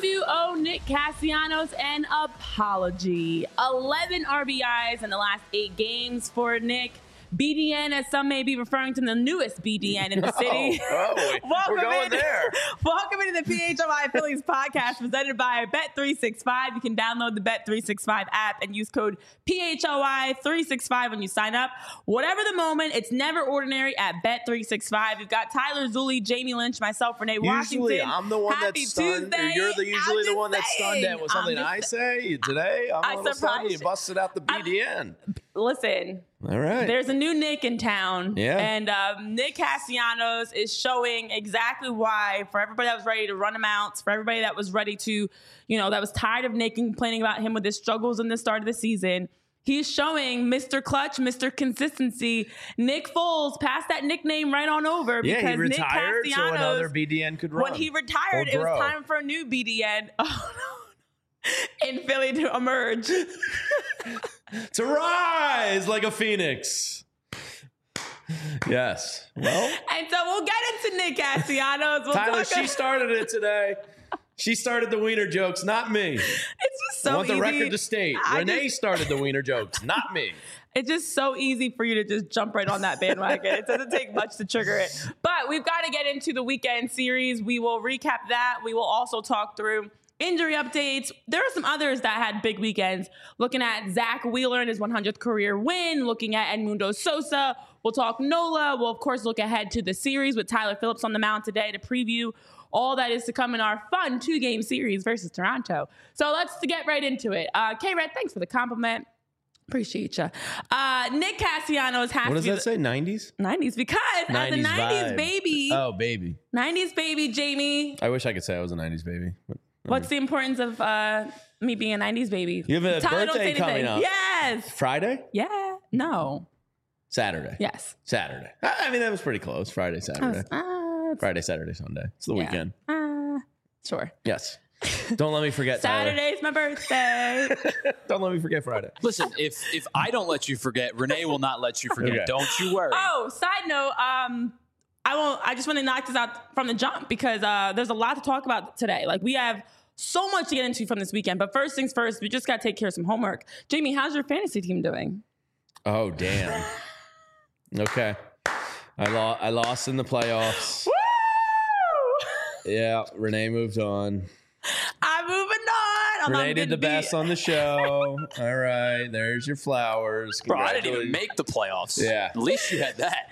you owe Nick Castellanos an apology. 11 RBIs in the last 8 games for Nick. BDN, as some may be referring to, the newest BDN in the city. We're going there. Welcome into the PHLI Phillies podcast presented by Bet365. You can download the Bet365 app and use code PHLI365 when you sign up. Whatever the moment, it's never ordinary at Bet365. We've got Tyler Zulli, Jamie Lynch, myself, Renee Washington. Usually I'm the one Happy that's stunned. Tuesday. Or you're usually the one that's stunned at I'm something I say. Today, I'm a little stunned. You busted out the BDN. Listen. All right. There's a new Nick in town. Yeah. And Nick Castellanos is showing exactly why, for everybody that was ready to run him out, for everybody that was ready to, that was tired of Nick and complaining about him with his struggles in the start of the season. He's showing Mr. Clutch, Mr. Consistency. Nick Foles passed that nickname right on over because he retired Nick so Castellanos, another BDN could run. when he retired, it was time for a new BDN. Oh, no. In Philly to emerge. To rise like a phoenix. Yes. Well. And so we'll get into Nick Castellanos. Tyler, she started it today. She started the wiener jokes, not me. It's just so easy. I want the record to state. Renee started the wiener jokes, not me. It's just so easy for you to just jump right on that bandwagon. It doesn't take much to trigger it. But we've got to get into the weekend series. We will recap that. We will also talk through injury updates. There are some others that had big weekends. Looking at Zach Wheeler and his 100th career win. Looking at Edmundo Sosa. We'll talk NOLA. We'll, of course, look ahead to the series with Tyler Phillips on the mound today to preview all that is to come in our fun 2-game series versus Toronto. So let's get right into it. K-Red, thanks for the compliment. Appreciate you. Nick Castellanos has What to does that say, 90s? 90s, because 90s as a 90s vibe. baby. Oh, baby. 90s baby, Jamie. I wish I could say I was a 90s baby. What's the importance of me being a 90s baby? You have a Tyler, don't say birthday coming anything. up. Yes. Friday? Yeah. No. Saturday. Yes. Saturday. I mean, that was pretty close. Friday, Saturday. Friday, Saturday, Sunday. It's the weekend. Sure. Yes. Don't let me forget, Saturday's my birthday. Don't let me forget Friday. Listen, if I don't let you forget, Renee will not let you forget. Okay. Don't you worry. Oh, side note, I just want to knock this out from the jump because there's a lot to talk about today. Like, we have so much to get into from this weekend. But first things first, we just got to take care of some homework. Jamie, how's your fantasy team doing? Oh, damn. Okay. I lost in the playoffs. Woo! Yeah, Renee moved on. I'm moving on. Renee did the best on the show. All right, there's your flowers. Bro, I didn't even make the playoffs. Yeah. At least you had that.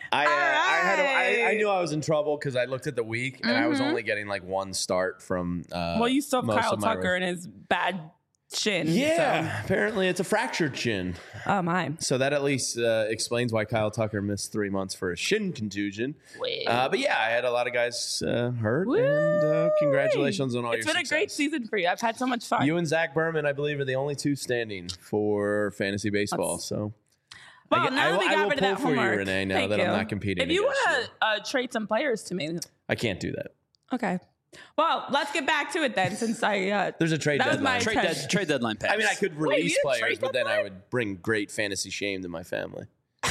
I knew I was in trouble because I looked at the week and I was only getting like one start from. Well, you still have most Kyle of my Tucker and his bad shin. Yeah, apparently it's a fractured shin. Oh, my. So that at least explains why Kyle Tucker missed 3 months for a shin contusion. But yeah, I had a lot of guys hurt. Woo! And congratulations on all your It's been success. a great season for you. I've had so much fun. You and Zach Berman, I believe, are the only two standing for fantasy baseball. So, well, now that we got rid of that pull for you, homework. Renee, now Thank that you. I'm not competing. If you against want to trade some players to me. I can't do that. Okay. Well, let's get back to it then, since I... There's a trade that was deadline. my Trade deadline pass. I mean, I could Wait, release you didn't players, trade but then I deadline? would bring great fantasy shame to my family.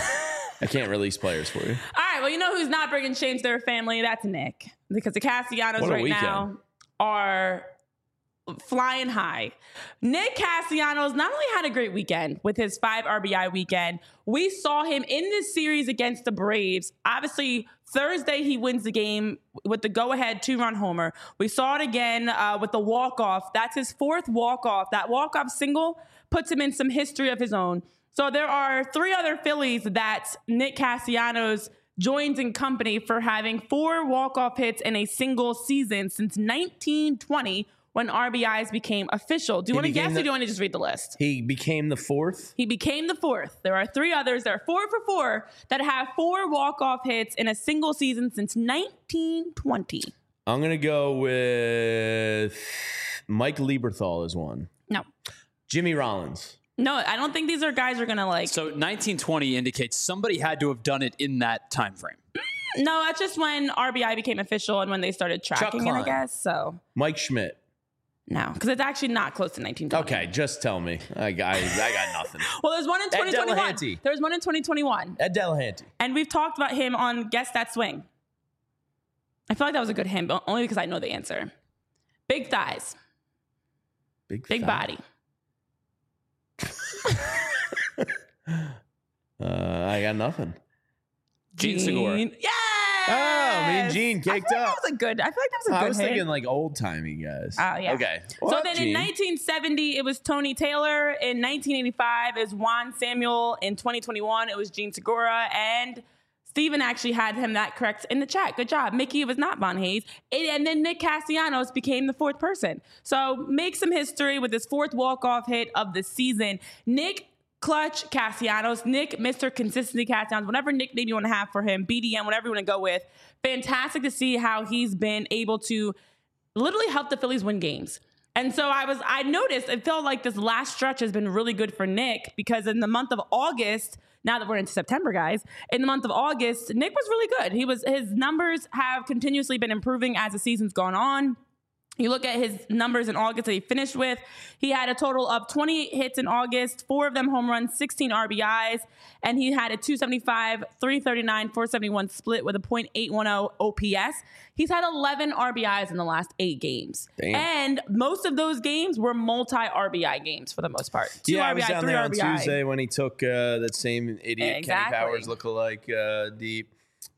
I can't release players for you. All right, well, you know who's not bringing shame to their family? That's Nick. Because the Castellanos What a right weekend. now are flying high. Nick Castellanos not only had a great weekend with his 5 RBI weekend, we saw him in this series against the Braves. Obviously, Thursday he wins the game with the go-ahead 2-run homer. We saw it again with the walk-off. That's his 4th walk-off. That walk-off single puts him in some history of his own. So there are 3 other Phillies that Nick Castellanos joins in company for having 4 walk-off hits in a single season since 1920, when RBIs became official. Do you want to guess or do you want to just read the list? He became the 4th? He became the 4th. There are 3 others. There are 4 for 4 that have 4 walk-off hits in a single season since 1920. I'm going to go with Mike Lieberthal as one. No. Jimmy Rollins. No, I don't think these are guys who are going to like... So 1920 indicates somebody had to have done it in that time frame. No, that's just when RBI became official and when they started tracking it, I Klein. guess. So Mike Schmidt. no, because it's actually not close to 1920. Okay, just tell me. I got nothing. Well, there's one in Ed 2021. Delahanty. There's one in 2021. Ed Delahanty. And we've talked about him on Guess That Swing. I feel like that was a good hint, but only because I know the answer. Big thighs. Big fat. body. I got nothing. Gene Segura. Yes! Oh, me and Gene caked up. I feel like that was a good I was hit. thinking like old timey guys. Oh, yeah. Okay. So Well, then Gene. in 1970, it was Tony Taylor. In 1985, it was Juan Samuel. In 2021, it was Gene Segura. And Steven actually had him that correct in the chat. Good job. Mickey, it was not Von Hayes. And then Nick Castellanos became the fourth person. So make some history with his fourth walk-off hit of the season. Nick Clutch Castellanos, Nick, Mr. Consistency Castellanos, whatever nickname you want to have for him, BDM, whatever you want to go with. Fantastic to see how he's been able to literally help the Phillies win games. And so I noticed, it felt like this last stretch has been really good for Nick because in the month of August, now that we're into September, guys, in the month of August, Nick was really good. His numbers have continuously been improving as the season's gone on. You look at his numbers in August that he finished with. He had a total of 28 hits in August, 4 of them home runs, 16 RBIs, and he had a 275, 339, 471 split with a .810 OPS. He's had 11 RBIs in the last 8 games. Damn. And most of those games were multi-RBI games for the most part. 2 I RBI, was down 3 there on RBI. Tuesday when he took that same idiot Exactly. Kenny Powers lookalike deep.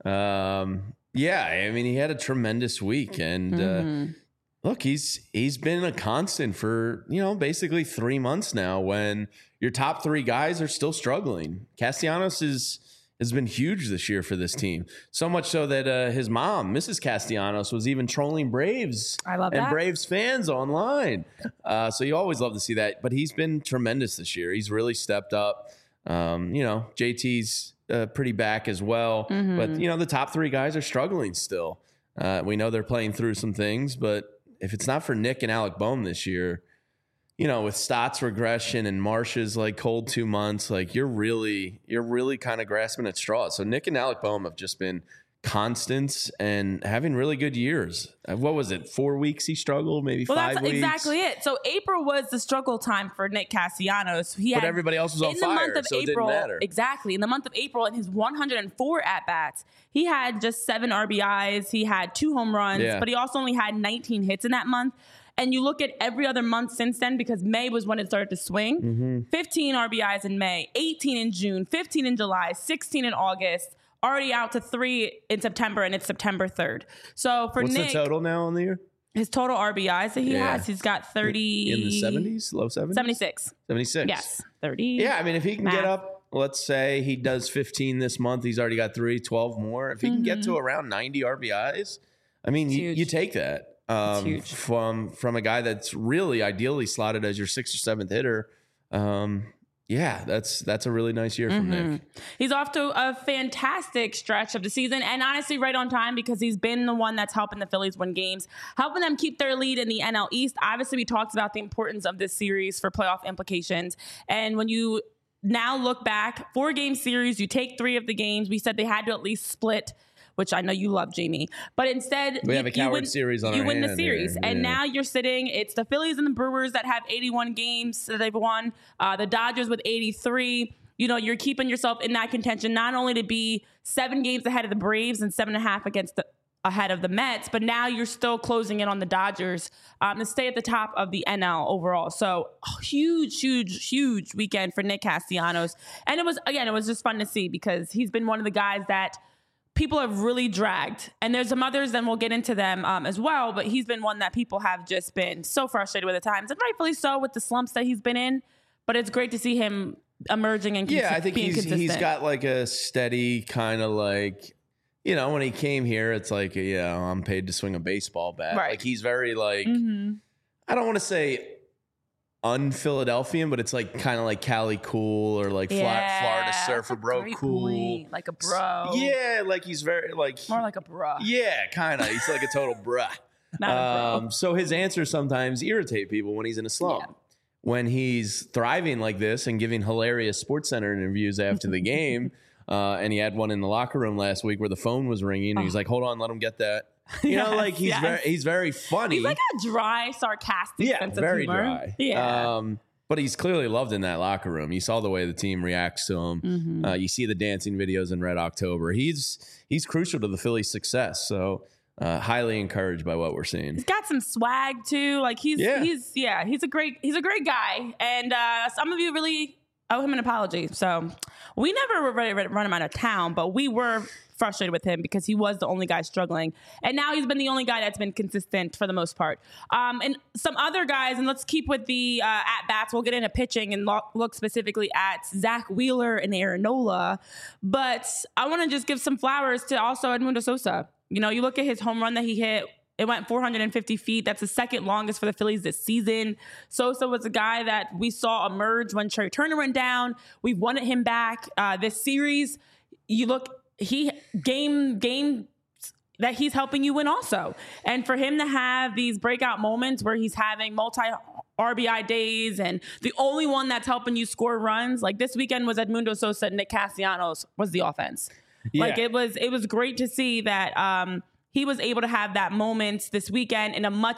I mean, he had a tremendous week. And look, he's been a constant for, basically 3 months now when your top 3 guys are still struggling. Castellanos has been huge this year for this team. So much so that his mom, Mrs. Castellanos, was even trolling Braves and that. Braves fans online. So you always love to see that. But he's been tremendous this year. He's really stepped up. JT's pretty back as well. But, the top 3 guys are struggling still. We know they're playing through some things, but if it's not for Nick and Alec Bohm this year, with Stott's regression and Marsh's cold 2 months, you're really kind of grasping at straws. So Nick and Alec Bohm have just been constants and having really good years. What was it? 4 weeks he struggled, maybe 5 weeks. That's exactly it. So April was the struggle time for Nick Castellanos. But everybody else was on fire, so it didn't matter. Exactly. In the month of April, in his 104 at-bats, he had just 7 RBIs. He had 2 home runs, but he also only had 19 hits in that month. And you look at every other month since then, because May was when it started to swing. 15 RBIs in May, 18 in June, 15 in July, 16 in August, already out to 3 in September, and it's September 3rd. So for What's Nick, the total now on the year? His total RBIs that he has, he's got 30. In the 70s? Low 70s? 76. 76. Yes, 30. Yeah, I mean, if he can Math. get up, let's say he does 15 this month, he's already got 12 more. If he can get to around 90 RBIs, I mean, you take that. Huge. From a guy that's really ideally slotted as your 6th or 7th hitter. That's a really nice year from Nick. He's off to a fantastic stretch of the season, and honestly right on time, because he's been the one that's helping the Phillies win games, helping them keep their lead in the NL East. Obviously, we talked about the importance of this series for playoff implications, and when you now look back, 4-game series, you take 3 of the games. We said they had to at least split, which I know you love, Jamie. But instead, We have a coward series on you our win the hand series. here. And Yeah. now you're sitting, it's the Phillies and the Brewers that have 81 games that they've won. The Dodgers with 83. You're keeping yourself in that contention, not only to be 7 games ahead of the Braves and 7.5 ahead of the Mets, but now you're still closing in on the Dodgers to stay at the top of the NL overall. So huge weekend for Nick Castellanos. And it was just fun to see, because he's been one of the guys that people have really dragged. And there's some others, and we'll get into them as well, but he's been one that people have just been so frustrated with at times, and rightfully so with the slumps that he's been in. But it's great to see him emerging and I think being consistent. he's got a steady kind of when he came here, it's I'm paid to swing a baseball bat. Right. He's very I don't want to say un-Philadelphian, but it's kind of Cali cool, or Florida surfer bro cool. Point. Like a bro. Yeah, he's very More like a bro. Yeah, kind of. He's a total bruh. Not a bro. So his answers sometimes irritate people when he's in a slump. Yeah. When he's thriving like this and giving hilarious SportsCenter interviews after the game, and he had one in the locker room last week where the phone was ringing, and he's like, "Hold on, let him get that." He's very funny. He's a dry, sarcastic sense of very humor. dry. Yeah. But he's clearly loved in that locker room. You saw the way the team reacts to him. You see the dancing videos in Red October. He's crucial to the Phillies' success. So highly encouraged by what we're seeing. He's got some swag too. Like he's a great guy. And some of you really owe him an apology. So we never were ready to run him out of town, but we were frustrated with him because he was the only guy struggling. And now he's been the only guy that's been consistent for the most part. And some other guys, and let's keep with the at-bats. We'll get into pitching and look specifically at Zach Wheeler and Aaron Nola. But I want to just give some flowers to also Edmundo Sosa. You know, you look at his home run that he hit. It went 450 feet. That's the second longest for the Phillies this season. Sosa was a guy that we saw emerge when Trey Turner went down. We wanted him back this series. You look, game that he's helping you win also. And for him to have these breakout moments where he's having multi-RBI days and the only one that's helping you score runs, like this weekend was Edmundo Sosa, Nick Castellanos was the offense. Yeah. Like it was great to see that he was able to have that moment this weekend in a much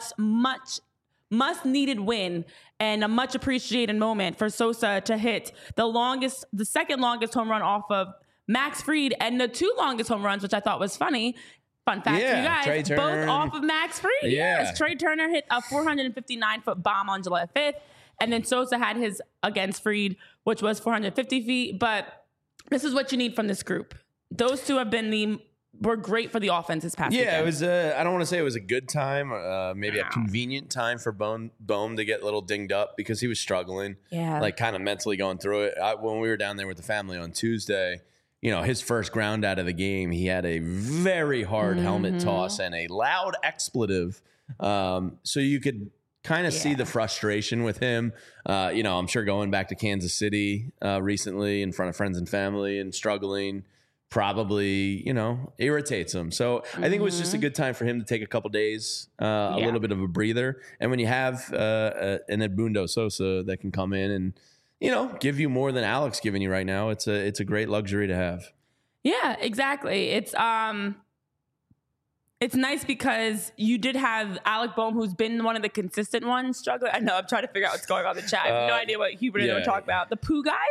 needed win and a much appreciated moment for Sosa to hit the second longest home run off of Max Fried and the two longest home runs, which I thought was funny. Fun fact for you guys, both off of Max Fried. Yeah. Yes, Trey Turner hit a 459-foot bomb on July 5th, and then Sosa had his against Fried, which was 450 feet. But this is what you need from this group. Those two were great for the offense this past weekend. Yeah, it was. I don't want to say it was a good time, maybe a convenient time for Bohm to get a little dinged up because he was struggling. Yeah, like kind of mentally going through it. When we were down there with the family on Tuesday, you know, his first ground out of the game, he had a very hard helmet toss and a loud expletive. So you could kind of see the frustration with him. You know, I'm sure going back to Kansas City recently in front of friends and family and struggling probably, you know, irritates him. So I think it was just a good time for him to take a couple days, a little bit of a breather. And when you have an Edmundo Sosa that can come in and, you know, give you more than Alex giving you right now, it's a great luxury to have. Yeah, exactly. It's nice because you did have Alec Bohm, who's been one of the consistent ones, struggling. I know, I'm trying to figure out what's going on in the chat. I have no idea what Hubert and I were talking about. The poo guy?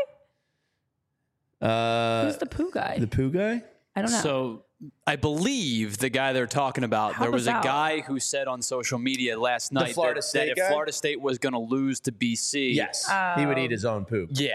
Who's the poo guy? The poo guy? I don't know. So I believe the guy they're talking about, there was a guy who said on social media last night that if Florida State was going to lose to BC. Yes. He would eat his own poop. Yeah.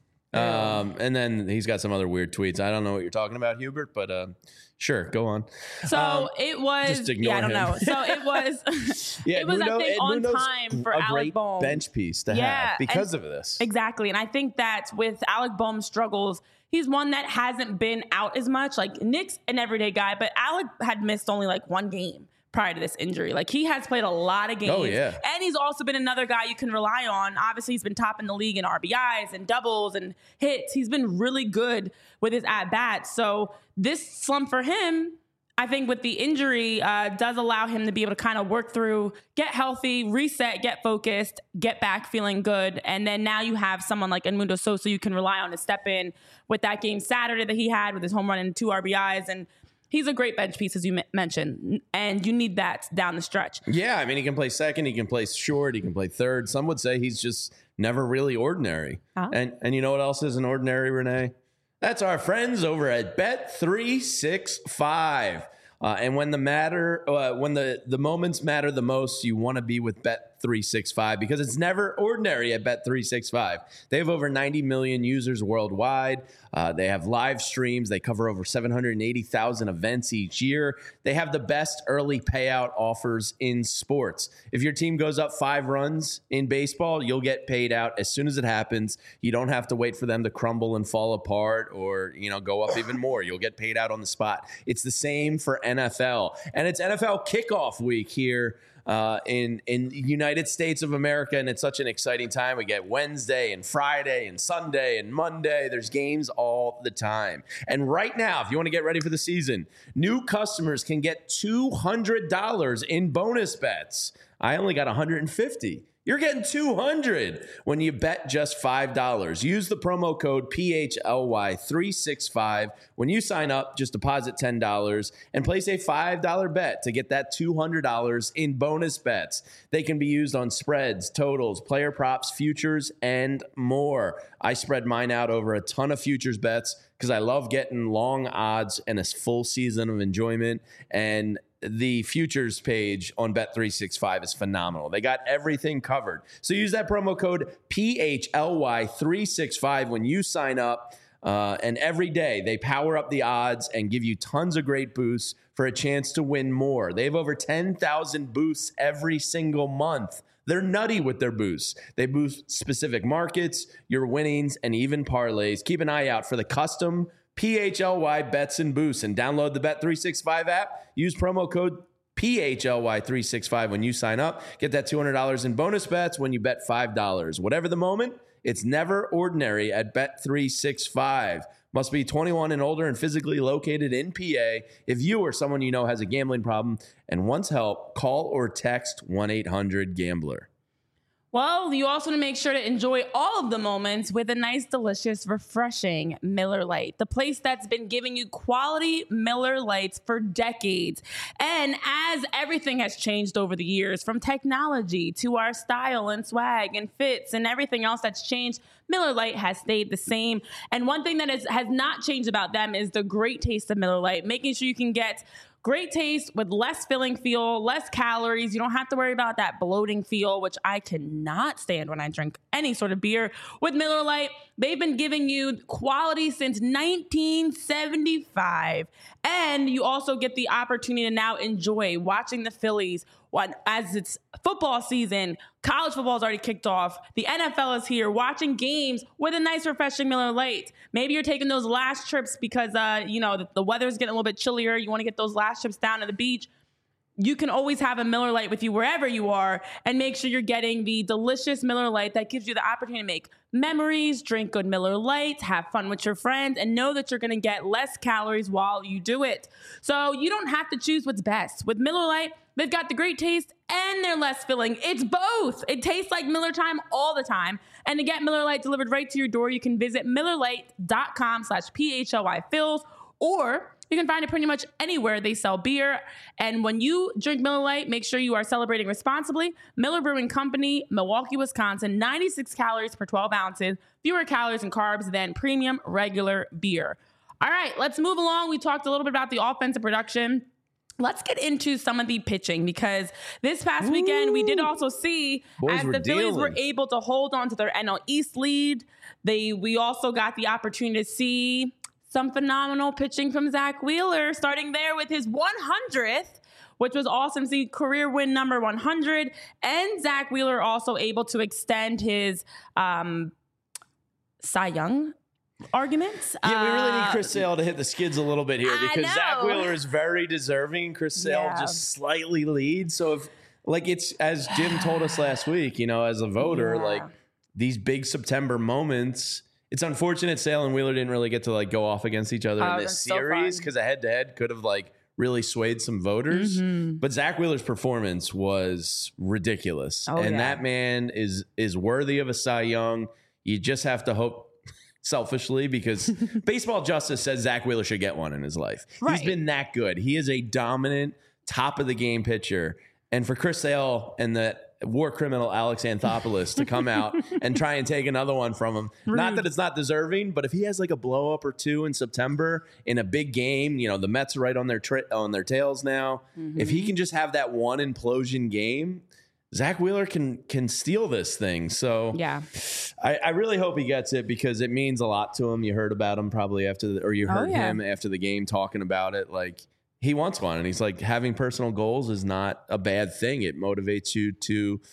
And then he's got some other weird tweets. I don't know what you're talking about, Hubert, but sure, go on. So it was. Just ignore him. I don't know. So it was. It was, I think, on time for Alec Bohm. Bench piece to have because of this. Exactly, and I think that with Alec Bohm's struggles, he's one that hasn't been out as much. Like Nick's an everyday guy, but Alec had missed only like one game prior to this injury. Like he has played a lot of games. Oh, yeah. And he's also been another guy you can rely on. Obviously, he's been top in the league in RBIs and doubles and hits. He's been really good with his at-bats. So this slump for him, I think with the injury, does allow him to be able to kind of work through, get healthy, reset, get focused, get back feeling good. And then now you have someone like Edmundo Sosa you can rely on to step in with that game Saturday that he had with his home run and 2 RBIs. And he's a great bench piece, as you mentioned, and you need that down the stretch. Yeah, I mean, he can play second, he can play short, he can play third. Some would say he's just never really ordinary. And you know what else isn't ordinary, Renee? That's our friends over at Bet365. And when the moments matter the most, you want to be with Bet365 because it's never ordinary at Bet365. They have over 90 million users worldwide. They have live streams. They cover over 780,000 events each year. They have the best early payout offers in sports. If your team goes up 5 runs in baseball, you'll get paid out as soon as it happens. You don't have to wait for them to crumble and fall apart or, you know, go up even more. You'll get paid out on the spot. It's the same for NFL. And it's NFL kickoff week here in United States of America, and it's such an exciting time. We get Wednesday and Friday and Sunday and Monday. There's games all the time. And right now, if you want to get ready for the season, new customers can get $200 in bonus bets. I only got $150. You're getting $200 when you bet just $5. Use the promo code PHLY365 when you sign up. Just deposit $10 and place a $5 bet to get that $200 in bonus bets. They can be used on spreads, totals, player props, futures, and more. I spread mine out over a ton of futures bets because I love getting long odds and a full season of enjoyment. And the futures page on Bet365 is phenomenal. They got everything covered. So use that promo code PHLY365 when you sign up. And every day they power up the odds and give you tons of great boosts for a chance to win more. They have over 10,000 boosts every single month. They're nutty with their boosts. They boost specific markets, your winnings, and even parlays. Keep an eye out for the custom PHLY bets and boosts and download the Bet365 app. Use promo code PHLY365 when you sign up. Get that $200 in bonus bets when you bet $5. Whatever the moment, it's never ordinary at Bet365. Must be 21 and older and physically located in PA. If you or someone you know has a gambling problem and wants help, call or text 1-800-GAMBLER. Well, you also want to make sure to enjoy all of the moments with a nice, delicious, refreshing Miller Lite, the place that's been giving you quality Miller Lites for decades. And as everything has changed over the years, from technology to our style and swag and fits and everything else that's changed, Miller Lite has stayed the same. And one thing that has not changed about them is the great taste of Miller Lite, making sure you can get great taste with less filling feel, less calories. You don't have to worry about that bloating feel, which I cannot stand when I drink any sort of beer. With Miller Lite, they've been giving you quality since 1975. And you also get the opportunity to now enjoy watching the Phillies as it's football season. College football has already kicked off. The NFL is here, watching games with a nice, refreshing Miller Lite. Maybe you're taking those last trips because, the weather's getting a little bit chillier. You want to get those last trips down to the beach. You can always have a Miller Lite with you wherever you are, and make sure you're getting the delicious Miller Lite that gives you the opportunity to make memories, drink good Miller Lites, have fun with your friends, and know that you're going to get less calories while you do it. So you don't have to choose what's best. With Miller Lite, they've got the great taste and they're less filling. It's both. It tastes like Miller time all the time. And to get Miller Lite delivered right to your door, you can visit MillerLite.com/PHLYFills, or you can find it pretty much anywhere they sell beer. And when you drink Miller Lite, make sure you are celebrating responsibly. Miller Brewing Company, Milwaukee, Wisconsin, 96 calories per 12 ounces, fewer calories and carbs than premium regular beer. All right, let's move along. We talked a little bit about the offensive production. Let's get into some of the pitching, because this past weekend we did also see as the Phillies were able to hold on to their NL East lead. We also got the opportunity to see some phenomenal pitching from Zach Wheeler, starting there with his 100th, which was awesome to see, career win number 100. And Zach Wheeler also able to extend his Cy Young arguments. Yeah, we really need Chris Sale to hit the skids a little bit here, because Zach Wheeler is very deserving. Chris Sale just slightly leads. So if, it's as Jim told us last week, as a voter, these big September moments, it's unfortunate Sale and Wheeler didn't really get to go off against each other in this series, because a head-to-head could have really swayed some voters. Mm-hmm. But Zach Wheeler's performance was ridiculous. That man is worthy of a Cy Young. You just have to hope selfishly, because baseball justice says Zach Wheeler should get one in his life. Right. He's been that good. He is a dominant, top-of-the-game pitcher. And for Chris Sale and the war criminal Alex Anthopoulos to come out and try and take another one from him. Rude. Not that it's not deserving, but if he has a blow up or two in September in a big game, the Mets are right on their tails now. Mm-hmm. If he can just have that one implosion game, Zach Wheeler can steal this thing. So yeah, I really hope he gets it, because it means a lot to him. You heard about him probably you heard him after the game talking about it. He wants one, and he's having personal goals is not a bad thing. It motivates you to,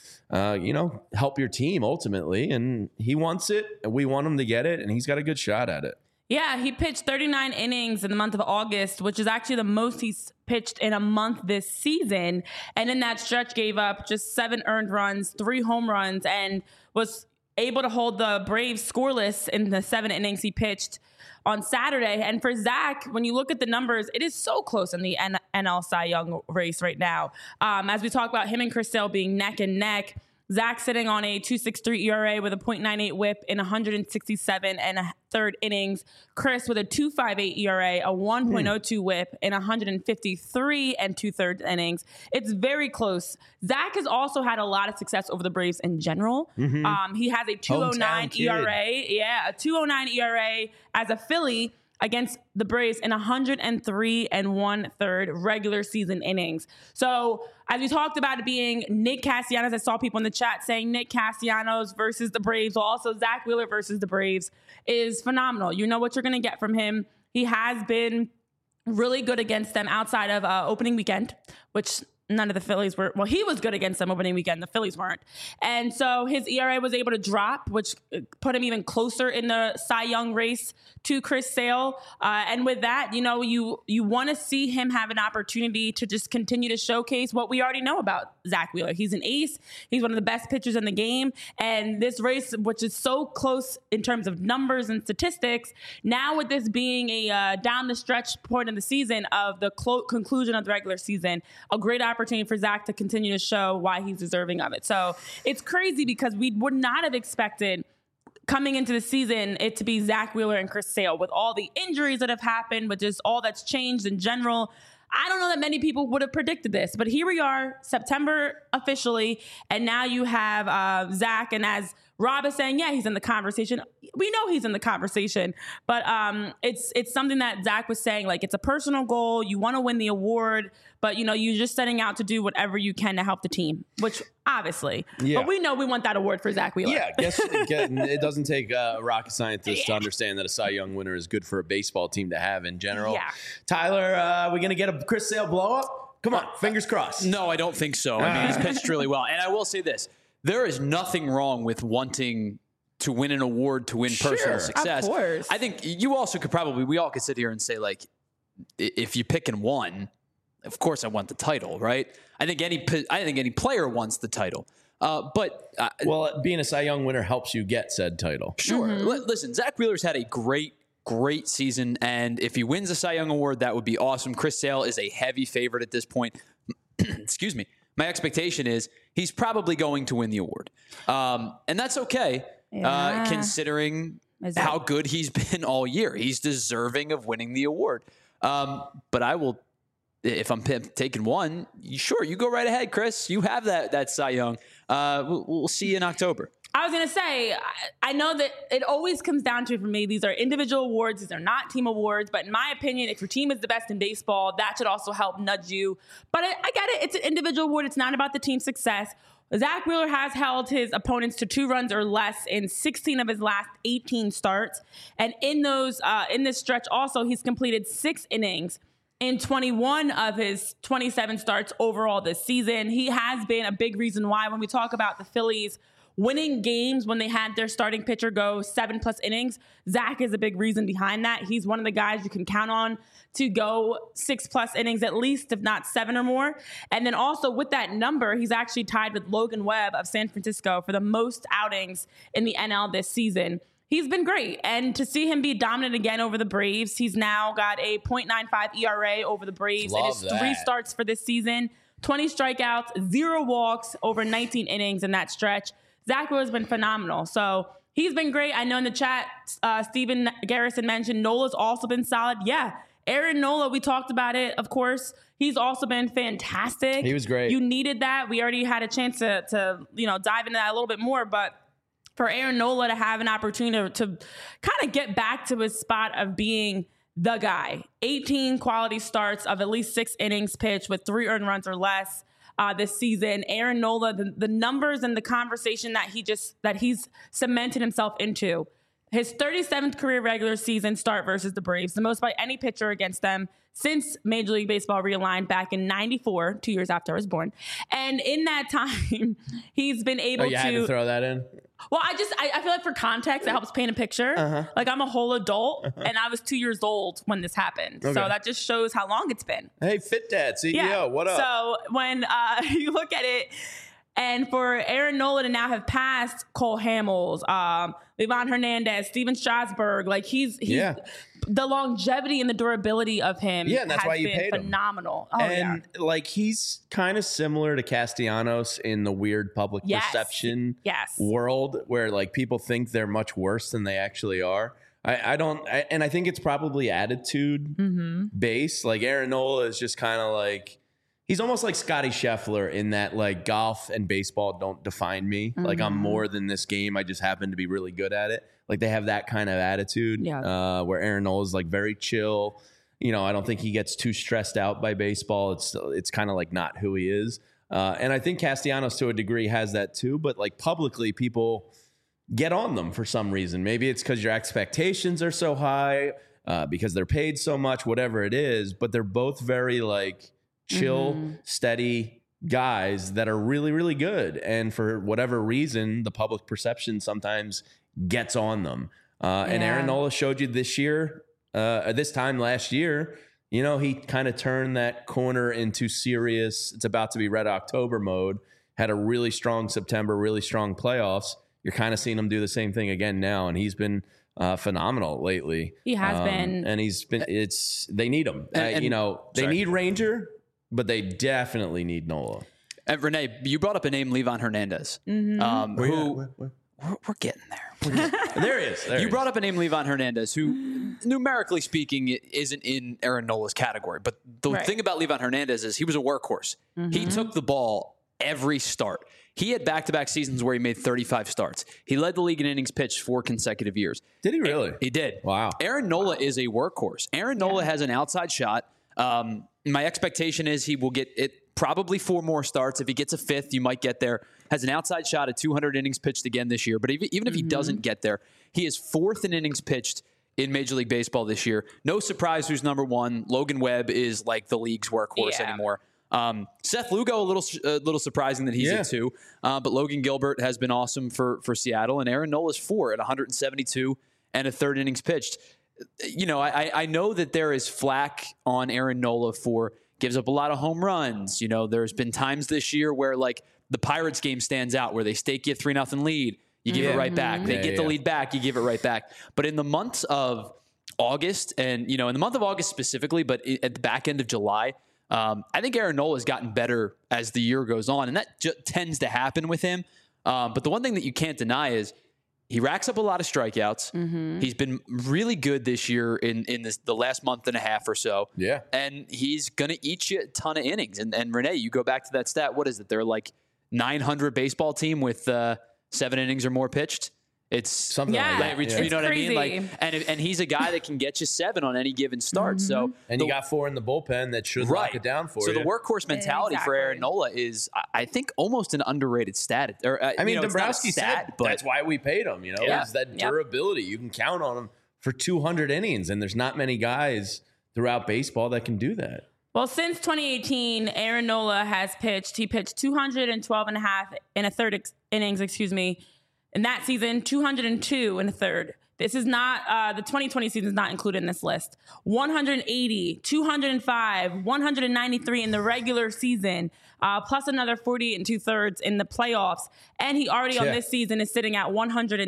help your team ultimately, and he wants it, and we want him to get it, and he's got a good shot at it. Yeah, he pitched 39 innings in the month of August, which is actually the most he's pitched in a month this season. And in that stretch, gave up just 7 earned runs, 3 home runs, and was able to hold the Braves scoreless in the 7 innings he pitched on Saturday. And for Zach, when you look at the numbers, it is so close in the NL Cy Young race right now. As we talk about him and Chris Sale being neck and neck, Zach sitting on a 2.63 ERA with a .98 whip in 167 and a third innings. Chris with a 2.58 ERA, a 1.02 whip in 153 and 2/3 innings. It's very close. Zach has also had a lot of success over the Braves in general. Mm-hmm. He has a 2.09 ERA. Yeah, a 2.09 ERA as a Philly. against the Braves in 103 1/3 regular season innings. So as we talked about it being Nick Castellanos, I saw people in the chat saying Nick Castellanos versus the Braves, well, also Zack Wheeler versus the Braves is phenomenal. You know what you're going to get from him. He has been really good against them outside of opening weekend, which none of the Phillies were. Well, he was good against them opening weekend. The Phillies weren't. And so his ERA was able to drop, which put him even closer in the Cy Young race to Chris Sale. And with that, you know, you want to see him have an opportunity to just continue to showcase what we already know about Zack Wheeler. He's an ace. He's one of the best pitchers in the game. And this race, which is so close in terms of numbers and statistics, now with this being a down the stretch point in the season of the conclusion of the regular season, a great opportunity for Zack to continue to show why he's deserving of it. So it's crazy because we would not have expected coming into the season it to be Zack Wheeler and Chris Sale with all the injuries that have happened, with just all that's changed in general. I don't know that many people would have predicted this, but here we are, September officially, and now you have Zack, and as Rob is saying, yeah, he's in the conversation. We know he's in the conversation, but it's something that Zack was saying, like, it's a personal goal. You want to win the award, but, you know, you're just setting out to do whatever you can to help the team, which obviously. Yeah. But we know we want that award for Zack Wheeler. Yeah, it doesn't take a rocket scientist to understand that a Cy Young winner is good for a baseball team to have in general. Yeah. Tyler, are we going to get a Chris Sale blow-up? Come on, fingers crossed. No, I don't think so. I mean, he's pitched really well. And I will say this. There is nothing wrong with wanting to win an award to win personal success. Of course. I think you also could we all could sit here and say, like, if you pick and one, of course I want the title, right? I think any player wants the title. But being a Cy Young winner helps you get said title. Sure. Mm-hmm. Listen, Zack Wheeler's had a great season, and if he wins the Cy Young award, that would be awesome. Chris Sale is a heavy favorite at this point. Excuse me. My expectation is he's probably going to win the award. And that's okay, considering how good he's been all year. He's deserving of winning the award. But I will, if I'm taking one, sure, you go right ahead, Chris. You have that Cy Young. We'll see you in October. I was going to say, I know that it always comes down to, for me, these are individual awards. These are not team awards. But in my opinion, if your team is the best in baseball, that should also help nudge you. But I get it. It's an individual award. It's not about the team success. Zack Wheeler has held his opponents to 2 runs or less in 16 of his last 18 starts. And in this stretch also, he's completed 6 innings in 21 of his 27 starts overall this season. He has been a big reason why, when we talk about the Phillies winning games when they had their starting pitcher go 7+ innings, Zack is a big reason behind that. He's one of the guys you can count on to go 6+ innings at least, if not 7 or more. And then also with that number, he's actually tied with Logan Webb of San Francisco for the most outings in the NL this season. He's been great. And to see him be dominant again over the Braves, he's now got a .95 ERA over the Braves in his 3 starts for this season. 20 strikeouts, 0 walks over 19 innings in that stretch. Zack Wheeler's been phenomenal. So he's been great. I know in the chat, Steven Garrison mentioned Nola's also been solid. Yeah, Aaron Nola, we talked about it, of course. He's also been fantastic. He was great. You needed that. We already had a chance to dive into that a little bit more, but for Aaron Nola to have an opportunity to kind of get back to his spot of being the guy. 18 quality starts of at least 6 innings pitched with 3 earned runs or less this season. Aaron Nola, the numbers and the conversation that he's cemented himself into. His 37th career regular season start versus the Braves, the most by any pitcher against them since Major League Baseball realigned back in '94, 2 years after I was born. And in that time, he's been able to... you had to throw that in? Well, I feel like for context, it helps paint a picture. Uh-huh. Like, I'm a whole adult, and I was 2 years old when this happened. Okay. So that just shows how long it's been. Hey, Fit Dad, CEO, what up? So when you look at it, and for Aaron Nola to now have passed Cole Hamels, Ivan Hernandez, Steven Strasburg, like he's the longevity and the durability of him and that's has why you been paid phenomenal. Him. And like, he's kind of similar to Castellanos in the weird public perception world where like people think they're much worse than they actually are. And I think it's probably attitude based. Like Aaron Nola is just kind of like, he's almost like Scotty Scheffler in that like golf and baseball don't define me. Like I'm more than this game. I just happen to be really good at it. Like they have that kind of attitude where Aaron Nola is like very chill. You know, I don't think he gets too stressed out by baseball. It's kind of like not who he is. And I think Castellanos to a degree has that too. But like publicly, people get on them for some reason. Maybe it's because your expectations are so high, because they're paid so much, whatever it is. But they're both very like chill, steady guys that are really, really good. And for whatever reason, the public perception sometimes gets on them. And Aaron Nola showed you this year, this time last year, you know, he kind of turned that corner into serious, it's about to be Red October mode, had a really strong September, really strong playoffs. You're kind of seeing him do the same thing again now. And he's been phenomenal lately. He has been. And they need him. You know, they need Ranger, but they definitely need Nola. And Renee, you brought up a name, Livan Hernandez, who we're getting there. There he is. You brought up a name, Livan Hernandez, who numerically speaking isn't in Aaron Nola's category. But the thing about Livan Hernandez is he was a workhorse. He took the ball every start. He had back-to-back seasons where he made 35 starts. He led the league in innings pitched 4 consecutive years. Did he really? He did. Wow. Aaron Nola is a workhorse. Aaron Nola has an outside shot. My expectation is he will get it probably 4 more starts. If he gets a 5th, you might get there. Has an outside shot at 200 innings pitched again this year. But even if he doesn't get there, he is 4th in innings pitched in Major League Baseball this year. No surprise who's number 1. Logan Webb is like the league's workhorse anymore. Seth Lugo, a little surprising that he's at 2. But Logan Gilbert has been awesome for Seattle. And Aaron Nola's 4 at 172 and a 3rd innings pitched. You know, I know that there is flack on Aaron Nola for gives up a lot of home runs. You know, there's been times this year where like the Pirates game stands out where they stake you a 3-0 lead. You give it right back. They get the lead back. You give it right back. But in the months of August and, you know, in the month of August specifically, but at the back end of July, I think Aaron Nola has gotten better as the year goes on. And that tends to happen with him. But the one thing that you can't deny is he racks up a lot of strikeouts. He's been really good this year in the last month and a half or so. Yeah. And he's going to eat you a ton of innings. And Renee, you go back to that stat. What is it? They're like 900 baseball team with 7 innings or more pitched. It's something like that. You know what crazy. I mean? Like, and he's a guy that can get you 7 on any given start. So you got 4 in the bullpen that should lock it down for you. So the workhorse mentality for Aaron Nola is, I think, almost an underrated stat. Or, I mean, Dombrowski said that's why we paid him. You know, it's that durability. You can count on him for 200 innings, and there's not many guys throughout baseball that can do that. Well, since 2018, Aaron Nola has pitched. He pitched 212 and a half in a third innings, in that season, 202 and a third. This is not, the 2020 season is not included in this list. 180, 205, 193 in the regular season, plus another 40 and 2/3 in the playoffs. And he already on this season is sitting at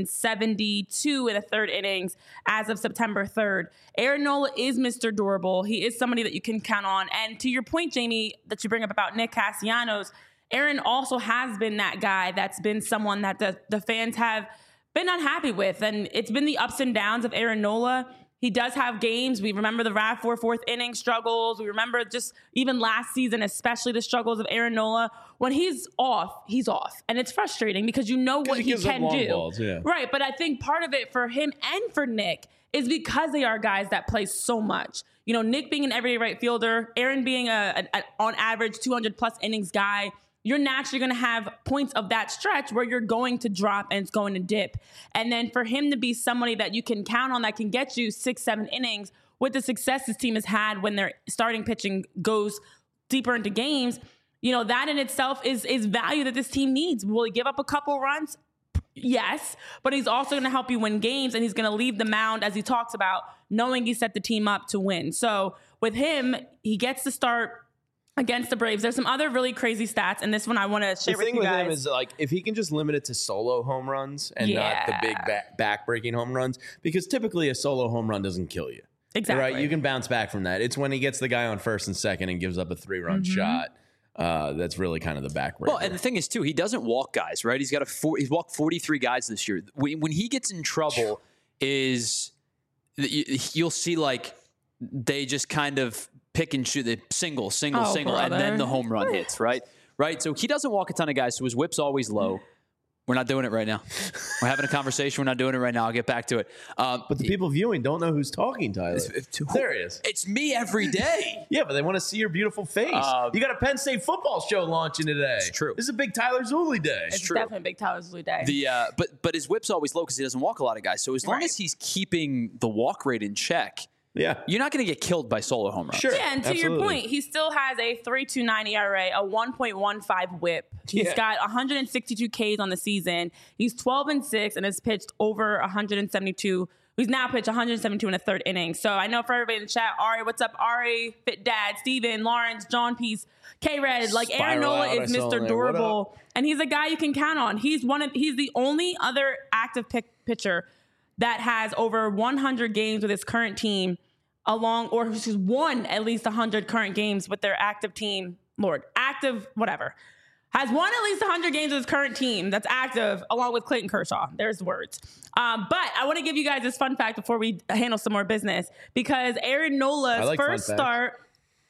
172 in a third innings as of September 3rd. Aaron Nola is Mr. Durable. He is somebody that you can count on. And to your point, Jamie, that you bring up about Nick Castellanos, Aaron also has been that guy that's been someone that the fans have been unhappy with. And it's been the ups and downs of Aaron Nola. He does have games. We remember the RAV4 4th inning struggles. We remember just even last season, especially the struggles of Aaron Nola. When he's off, he's off. And it's frustrating because you know what he can do. Balls, Right. But I think part of it for him and for Nick is because they are guys that play so much. You know, Nick being an everyday right fielder, Aaron being a on average 200 plus innings guy, you're naturally going to have points of that stretch where you're going to drop and it's going to dip. And then for him to be somebody that you can count on that can get you 6-7 innings with the success this team has had when their starting pitching goes deeper into games, you know, that in itself is value that this team needs. Will he give up a couple runs? Yes, but he's also going to help you win games, and he's going to leave the mound, as he talks about, knowing he set the team up to win. So with him, he gets to start against the Braves. There's some other really crazy stats, and this one I want to share with you guys. The thing with him is, like, if he can just limit it to solo home runs and not the big back-breaking home runs, because typically a solo home run doesn't kill you. Exactly. Right? You can bounce back from that. It's when he gets the guy on first and second and gives up a 3-run shot. That's really kind of the backbreaker. Well, and the thing is, too, he doesn't walk guys, right? He's walked 43 guys this year. When he gets in trouble, you'll see, like, they just kind of pick and shoot, the single, Oh, and brother. then the home run hits, right? Right. So he doesn't walk a ton of guys, so his whip's always low. We're not doing it right now. We're having a conversation. We're not doing it right now. I'll get back to it. But the people viewing don't know who's talking, Tyler. There he is. It's me every day. Yeah, but they want to see your beautiful face. You got a Penn State football show launching today. It's true. This is a big Tyler Zulli day. It's true. definitely a big Tyler Zulli day. But his whip's always low because he doesn't walk a lot of guys. So as long Right. as he's keeping the walk rate in check, Yeah. you're not going to get killed by solo home runs. Sure. Yeah, and to your Absolutely. point, he still has a 3.29 ERA, a 1.15 WHIP. He's Yeah. got 162 Ks on the season. He's 12-6 and has pitched over 172. He's now pitched 172 in the third inning. So I know for everybody in the chat, Ari, what's up, Ari, Fit Dad, Steven, Lawrence, John Peace, K-Red, like Aaron Spiral Nola out, I is saw Mr. in there. What Durable, and he's a guy you can count on. He's the only other active pitcher that has over 100 games with his current team, or who's won at least 100 current games with their active team. Has won at least 100 games with his current team that's active, along with Clayton Kershaw. There's the words. But I want to give you guys this fun fact before we handle some more business, because Aaron Nola's like fun first facts. start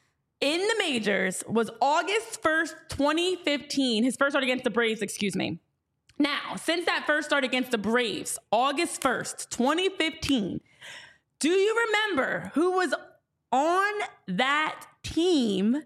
in the majors was August 1st, 2015. His first start against the Braves, excuse me. Now, since that first start against the Braves, August 1st, 2015, do you remember who was on that team?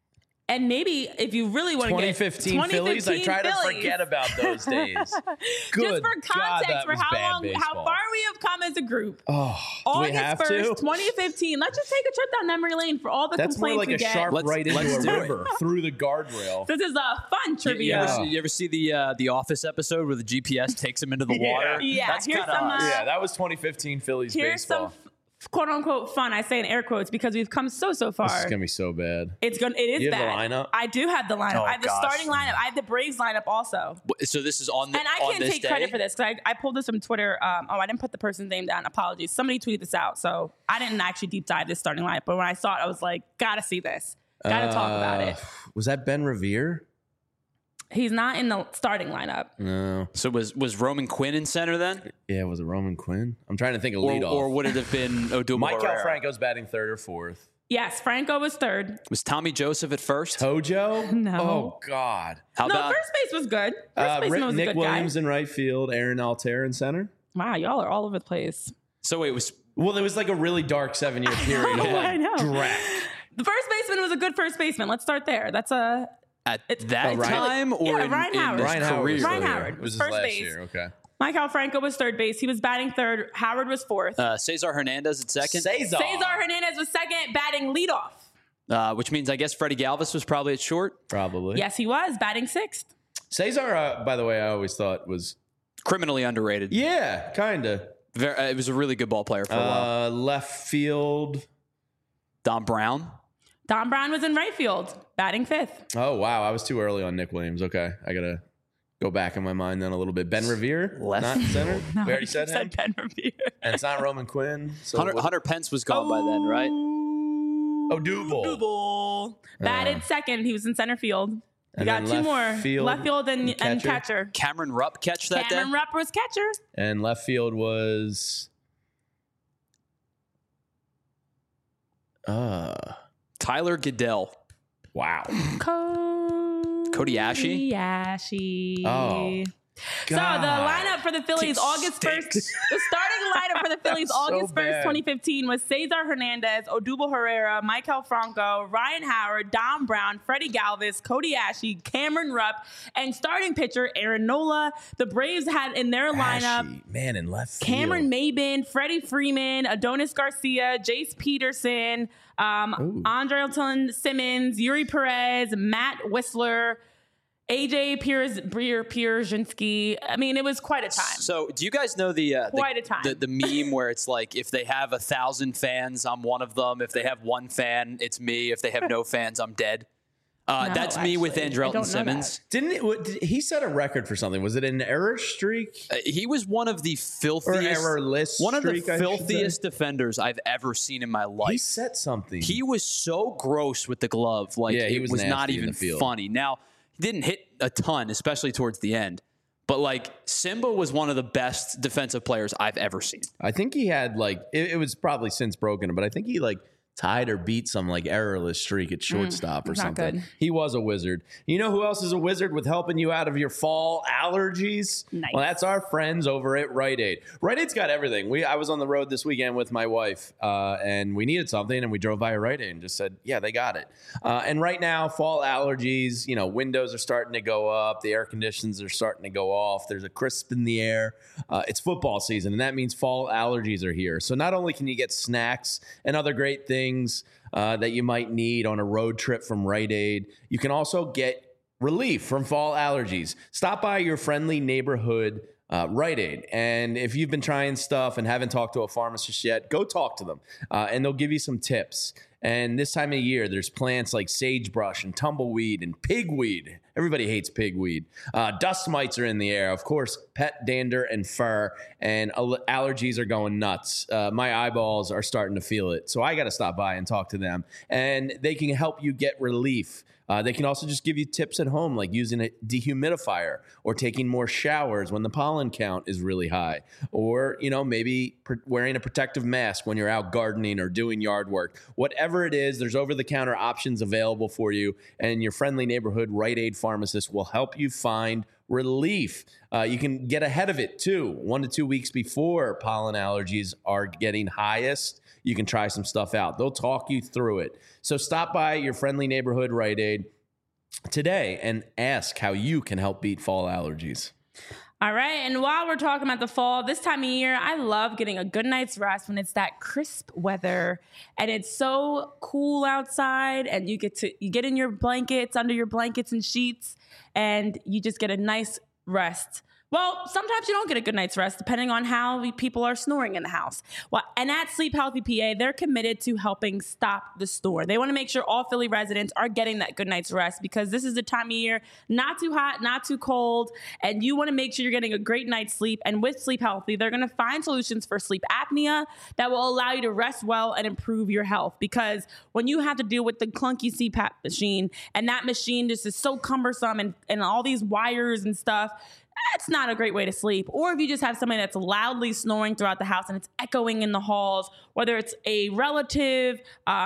And maybe if you really want to get 2015 Phillies. I try to Phillies. forget about those days. Good Just for God, context that for was how bad long, baseball. how far we have come as a group. Oh, do we have August 1st, to? 2015. Let's just take a trip down memory lane for all the That's more complaints like we a get. sharp Let's- right let's into do a it. river through the guardrail. This is a fun You trivia. ever see the Office episode where the GPS takes him into the Yeah. water? Yeah, That's here's kind of some, us. Yeah, that was 2015 Phillies Here's baseball. some quote unquote fun. I say in air quotes because we've come so far. This is gonna be so bad. It is You have the bad. lineup? I do have the lineup. Oh, I have the gosh. starting lineup. I have the Braves lineup also. So this is on the And I on can't this take day? credit for this because I pulled this from Twitter. I didn't put the person's name down. Apologies. Somebody tweeted this out. So I didn't actually deep dive this starting lineup. But when I saw it, I was like, gotta see this. Gotta talk about it. Was that Ben Revere? He's not in the starting lineup. No. So was Roman Quinn in center then? Yeah, was it Roman Quinn? I'm trying to think of Or, leadoff. or would it have been Odubel Mike Herrera? Franco's batting third or fourth. Yes, Franco was third. Was Tommy Joseph at first? Tojo? No. Oh, God. How No, about first base was good. First baseman was a Nick good Williams guy. in right field, Aaron Altair in center. Wow, y'all are all over the place. so wait, was Well, there was like a really dark 7-year period of I know. like dreck. The first baseman was a good first baseman. Let's start there. That's a at that Ryan- time or Yeah, in, Ryan in Howard. his Ryan Howard. career? was Ryan still here. Howard It was was his first last base. year. Okay. Michael Franco was third base. He was batting third. Howard was fourth. Cesar Hernandez at second, Cesar. Cesar Hernandez was second, batting leadoff. which means I guess Freddie Galvis was probably at short. Probably. Yes, he was batting sixth. Cesar, by the way, I always thought was, Criminally underrated. yeah, kind of. It was a really good ball player for a while. Left field. Don Brown. Don Brown was in right field, batting fifth. Oh, wow. I was too early on Nick Williams. Okay. I got to go back in my mind then a little bit. Ben Revere, Left not center. We already You said him. Ben Revere. And it's not Roman Quinn. So Hunter Pence was gone by then, right? Odubel. Odubel. Batted second. He was in center field. We And got then two more. left field Left field and and catcher. Cameron Rupp catch that Cameron day. Rupp was catcher. And left field was Tyler Goodell. wow. Cody Ashe? Ashe. Oh, So the lineup for the Phillies, August 1st, the starting lineup for the Phillies, So August 1st, bad. 2015 was Cesar Hernandez, Odubel Herrera, Michael Franco, Ryan Howard, Don Brown, Freddie Galvis, Cody Ashe, Cameron Rupp, and starting pitcher Aaron Nola. The Braves had in their lineup Ashe, man, in left field. Cameron Maben, Freddie Freeman, Adonis Garcia, Jace Peterson, Andrelton Simmons, Yuri Perez, Matt Whistler, AJ Pierzynski. I mean, it was quite a time. So, do you guys know the Quite a time. the meme where it's like, if they have 1,000 fans, I'm one of them. If they have one fan, it's me. If they have no fans, I'm dead. That's me with actually. I don't know Andrelton Simmons. He set a record for something? Was it an error streak He was one of the or filthiest, errorless? one of the streak, I should filthiest say? defenders I've ever seen in my life. He set something. He was so gross with the glove. Like, Yeah, he it was was not nasty in even the field. funny. Now, he didn't hit a ton, especially towards the end. But, like, Simba was one of the best defensive players I've ever seen. I think he had like it was probably since broken, but I think he like tied or beat some like errorless streak at shortstop or not something. good. He was a wizard. You know who else is a wizard with helping you out of your fall allergies? Nice. Well, that's our friends over at Rite Aid. Rite Aid's got everything. I was on the road this weekend with my wife, and we needed something, and we drove by a Rite Aid and just said, yeah, they got it. And right now, fall allergies, windows are starting to go up. The air conditions are starting to go off. There's a crisp in the air. It's football season, and that means fall allergies are here. So not only can you get snacks and other great things that you might need on a road trip from Rite Aid, you can also get relief from fall allergies. Stop by your friendly neighborhood Rite Aid. And if you've been trying stuff and haven't talked to a pharmacist yet, go talk to them and they'll give you some tips. And this time of year, there's plants like sagebrush and tumbleweed and pigweed. Everybody hates pigweed. Dust mites are in the air. Of course, pet dander and fur. And allergies are going nuts. My eyeballs are starting to feel it. So I got to stop by and talk to them. And they can help you get relief. They can also just give you tips at home, like using a dehumidifier or taking more showers when the pollen count is really high. Or, maybe wearing a protective mask when you're out gardening or doing yard work. Whatever it is, there's over-the-counter options available for you. And your friendly neighborhood Rite Aid pharmacist will help you find relief. You can get ahead of it, too. 1 to 2 weeks before pollen allergies are getting highest. You can try some stuff out. They'll talk you through it. So stop by your friendly neighborhood Rite Aid today and ask how you can help beat fall allergies. All right. And while we're talking about the fall, this time of year, I love getting a good night's rest when it's that crisp weather and it's so cool outside and you get in your blankets, under your blankets and sheets, and you just get a nice rest. Well, sometimes you don't get a good night's rest depending on how people are snoring in the house. Well, and at Sleep Healthy PA, they're committed to helping stop the snore. They want to make sure all Philly residents are getting that good night's rest because this is the time of year, not too hot, not too cold, and you want to make sure you're getting a great night's sleep. And with Sleep Healthy, they're going to find solutions for sleep apnea that will allow you to rest well and improve your health. Because when you have to deal with the clunky CPAP machine, and that machine just is so cumbersome and all these wires and stuff, that's not a great way to sleep. Or if you just have somebody that's loudly snoring throughout the house and it's echoing in the halls, whether it's a relative,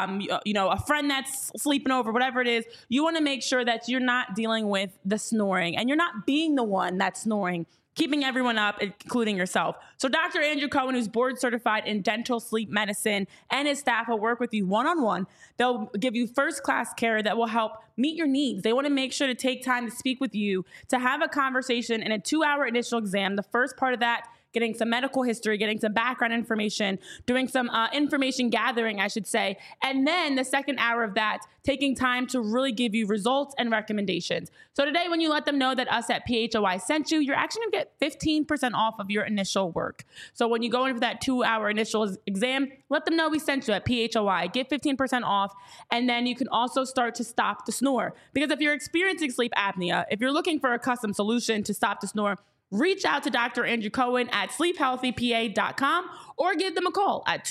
a friend that's sleeping over, whatever it is, you want to make sure that you're not dealing with the snoring and you're not being the one that's snoring, keeping everyone up, including yourself. So Dr. Andrew Cohen, who's board certified in dental sleep medicine, and his staff will work with you one-on-one. They'll give you first-class care that will help meet your needs. They want to make sure to take time to speak with you, to have a conversation in a 2-hour initial exam. The first part of that, getting some medical history, getting some background information, doing some information gathering, I should say. And then the second hour of that, taking time to really give you results and recommendations. So today, when you let them know that us at PHOI sent you, you're actually gonna get 15% off of your initial work. So when you go in for that 2-hour initial exam, let them know we sent you at PHOI, get 15% off. And then you can also start to stop the snore. Because if you're experiencing sleep apnea, if you're looking for a custom solution to stop the snore, reach out to Dr. Andrew Cohen at sleephealthypa.com or give them a call at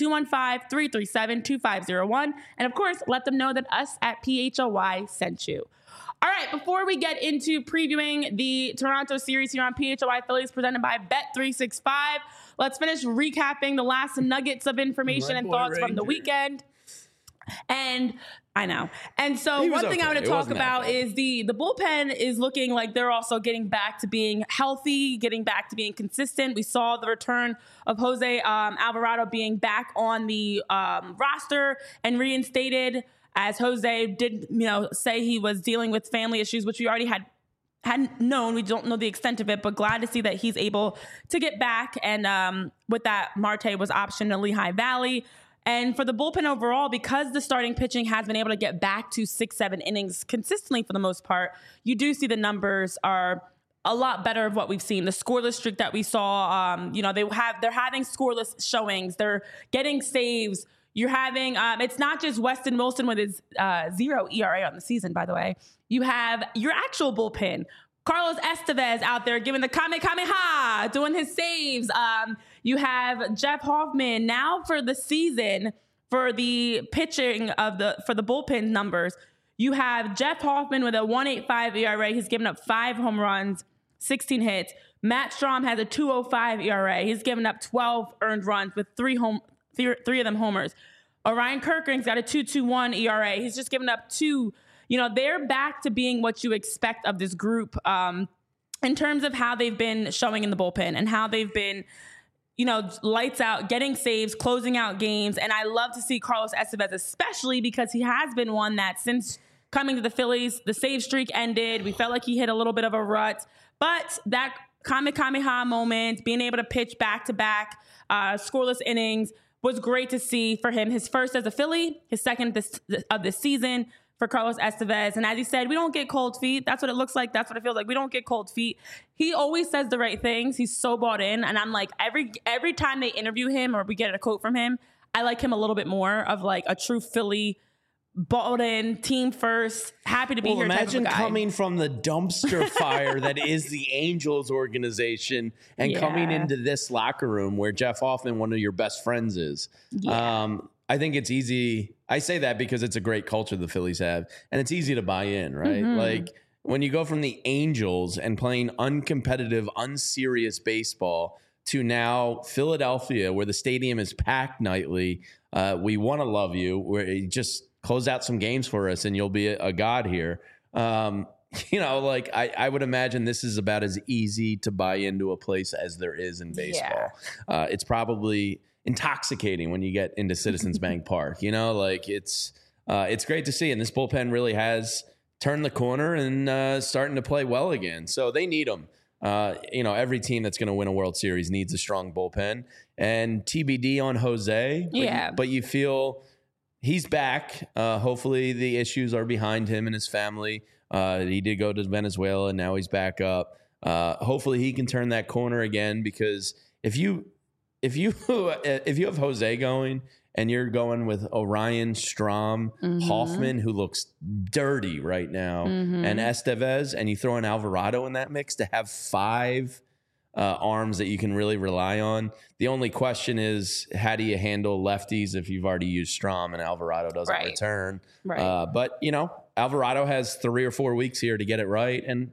215-337-2501. And of course, let them know that us at PHOI sent you. All right, before we get into previewing the Toronto series here on PHOI Phillies presented by Bet365, let's finish recapping the last nuggets of information and thoughts from the weekend. And I know. And so one thing I want to talk about is the bullpen is looking like they're also getting back to being healthy, getting back to being consistent. We saw the return of Jose Alvarado being back on the roster and reinstated, as Jose did, say he was dealing with family issues, which we already hadn't known. We don't know the extent of it, but glad to see that he's able to get back. And with that, Marte was optioned to Lehigh Valley. And for the bullpen overall, because the starting pitching has been able to get back to 6-7 innings consistently for the most part, you do see the numbers are a lot better of what we've seen. The scoreless streak that we saw, they're having scoreless showings. They're getting saves. You're having, it's not just Weston Wilson with his 0 ERA on the season, by the way. You have your actual bullpen. Carlos Estevez out there giving the Kamehameha, doing his saves. You have Jeff Hoffman now for the season for the pitching for the bullpen numbers. You have Jeff Hoffman with a 1.85 ERA. He's given up 5 home runs, 16 hits. Matt Strahm has a 2.05 ERA. He's given up 12 earned runs with 3 of them homers. Orion Kerkering's got a 2.21 ERA. He's just given up 2. You know, they're back to being what you expect of this group in terms of how they've been showing in the bullpen and how they've been, you know, lights out, getting saves, closing out games. And I love to see Carlos Estevez, especially because he has been one that since coming to the Phillies, the save streak ended. We felt like he hit a little bit of a rut. But that Kamehameha moment, being able to pitch back-to-back scoreless innings was great to see for him. His first as a Philly, his second of this season for Carlos Estevez. And as he said, we don't get cold feet. That's what it looks like. That's what it feels like. We don't get cold feet. He always says the right things. He's so bought in. And I'm like, every time they interview him or we get a quote from him, I like him a little bit more of like a true Philly bought in, team first, happy to be here. Imagine type of a guy. coming from the dumpster fire that is the Angels organization and coming into this locker room where Jeff Hoffman, one of your best friends, is. Yeah. I think it's easy. I say that because it's a great culture the Phillies have, and it's easy to buy in, right? Like when you go from the Angels and playing uncompetitive, unserious baseball to now Philadelphia, where the stadium is packed nightly. We want to love you. Where you just close out some games for us and you'll be a god here. You know, like I would imagine this is about as easy to buy into a place as there is in baseball. It's probably intoxicating when you get into Citizens Bank Park, you know, like it's great to see. And this bullpen really has turned the corner and starting to play well again. So they need them. You know, every team that's going to win a World Series needs a strong bullpen. And TBD on Jose. But you feel he's back. Hopefully the issues are behind him and his family. He did go to Venezuela and now he's back up. Hopefully he can turn that corner again, because if you have Jose going and you're going with Orion, Strom, Hoffman, who looks dirty right now, and Estevez, and you throw in Alvarado in that mix to have 5 arms that you can really rely on. The only question is, how do you handle lefties if you've already used Strom and Alvarado doesn't return? But, you know, Alvarado has 3 or 4 weeks here to get it right. And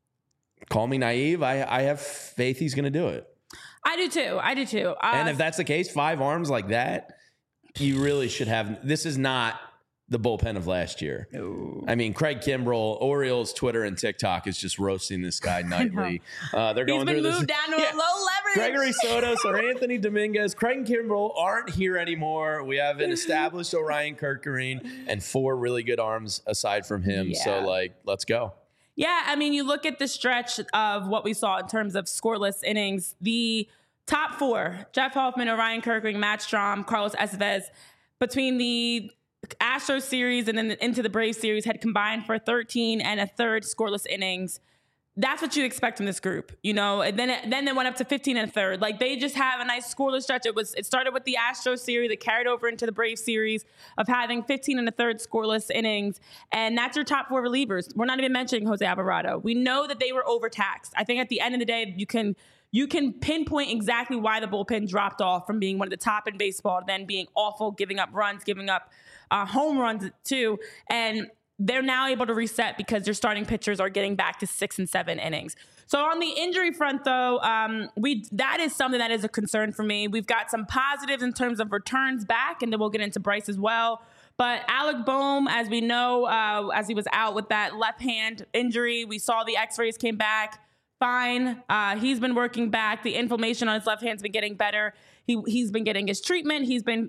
call me naive, I have faith he's going to do it. I do too. And if that's the case, 5 arms like that, you really should have. This is not the bullpen of last year. No. I mean, Craig Kimbrell, Orioles, Twitter, and TikTok is just roasting this guy nightly. They're going through this. He's been moved down to a low leverage. Gregory Soto, Sir Anthony Dominguez, Craig Kimbrell aren't here anymore. We have an established Orion Kerkering and 4 really good arms aside from him. So, like, let's go. Yeah, I mean, you look at the stretch of what we saw in terms of scoreless innings. The top 4, Jeff Hoffman, Orion Kerkering, Matt Strom, Carlos Estevez, between the Astros series and then into the Braves series, had combined for 13 and a third scoreless innings. That's what you expect from this group, you know. And then they went up to 15 and a third. Like, they just have a nice scoreless stretch. It started with the Astros series, it carried over into the Braves series of having 15 and a third scoreless innings, and that's your top 4 relievers. We're not even mentioning Jose Alvarado. We know that they were overtaxed. I think at the end of the day, you can pinpoint exactly why the bullpen dropped off from being one of the top in baseball to then being awful, giving up runs, giving up home runs too. And they're now able to reset because their starting pitchers are getting back to 6 and 7 innings. So on the injury front, though, that is something that is a concern for me. We've got some positives in terms of returns back, and then we'll get into Bryce as well. But Alec Bohm, as we know, as he was out with that left hand injury, we saw the x-rays came back fine. He's been working back. The inflammation on his left hand's been getting better. He's been getting his treatment.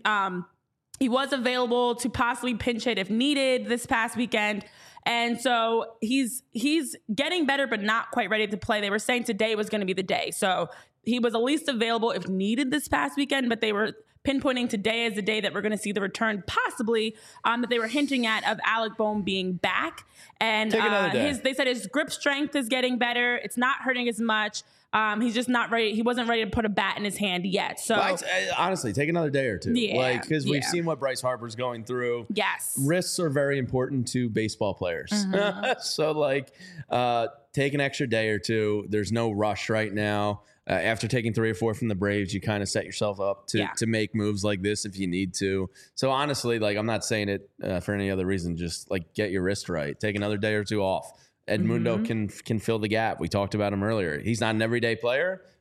He was available to possibly pinch hit if needed this past weekend. And so he's getting better, but not quite ready to play. They were saying today was going to be the day. So he was at least available if needed this past weekend, but they were pinpointing today as the day that we're going to see the return, possibly, that they were hinting at of Alec Bohm being back. And they said his grip strength is getting better. It's not hurting as much. He's just not ready. He wasn't ready to put a bat in his hand yet. So honestly, take another day or two. Yeah, because we've seen what Bryce Harper's going through. Yes. Risks are very important to baseball players. So take an extra day or two. There's no rush right now. After taking 3 or 4 from the Braves, you kind of set yourself up to make moves like this if you need to. So honestly, I'm not saying it for any other reason. Just get your wrist right. Take another day or two off. Edmundo can fill the gap. We talked about him earlier. He's not an everyday player,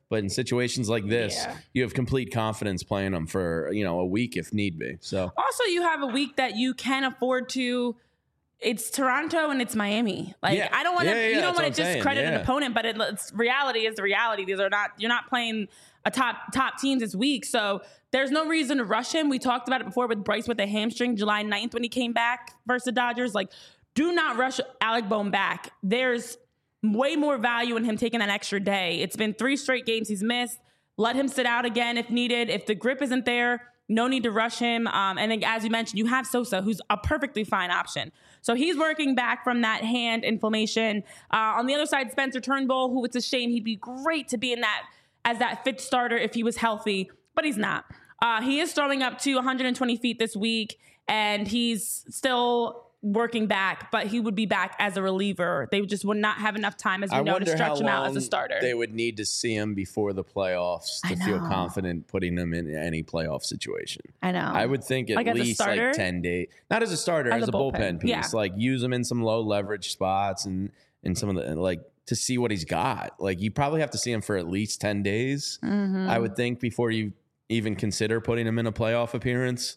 But in situations like this, you have complete confidence playing them for, a week if need be. So also you have a week that you can afford to. It's Toronto and it's Miami. I don't want to. You don't want to discredit an opponent, but it's reality is the reality. You're not playing a top teams this week, so there's no reason to rush him. We talked about it before with Bryce with a hamstring July 9th when he came back versus the Dodgers. Do not rush Alec Bohm back. There's way more value in him taking that extra day. It's been 3 straight games he's missed. Let him sit out again if needed. If the grip isn't there, no need to rush him. And then, as you mentioned, you have Sosa, who's a perfectly fine option. So he's working back from that hand inflammation. On the other side, Spencer Turnbull, who it's a shame. He'd be great to be in that as that fifth starter if he was healthy, but he's not. He is throwing up to 120 feet this week, and he's still working back, but he would be back as a reliever. They just would not have enough time, as we know, to stretch him out as a starter. They would need to see him before the playoffs to feel confident putting him in any playoff situation. I know. I would think at least 10 days. Not as a starter, as a bullpen piece. Yeah. Use him in some low leverage spots and some of the to see what he's got. You probably have to see him for at least 10 days, I would think, before you even consider putting him in a playoff appearance.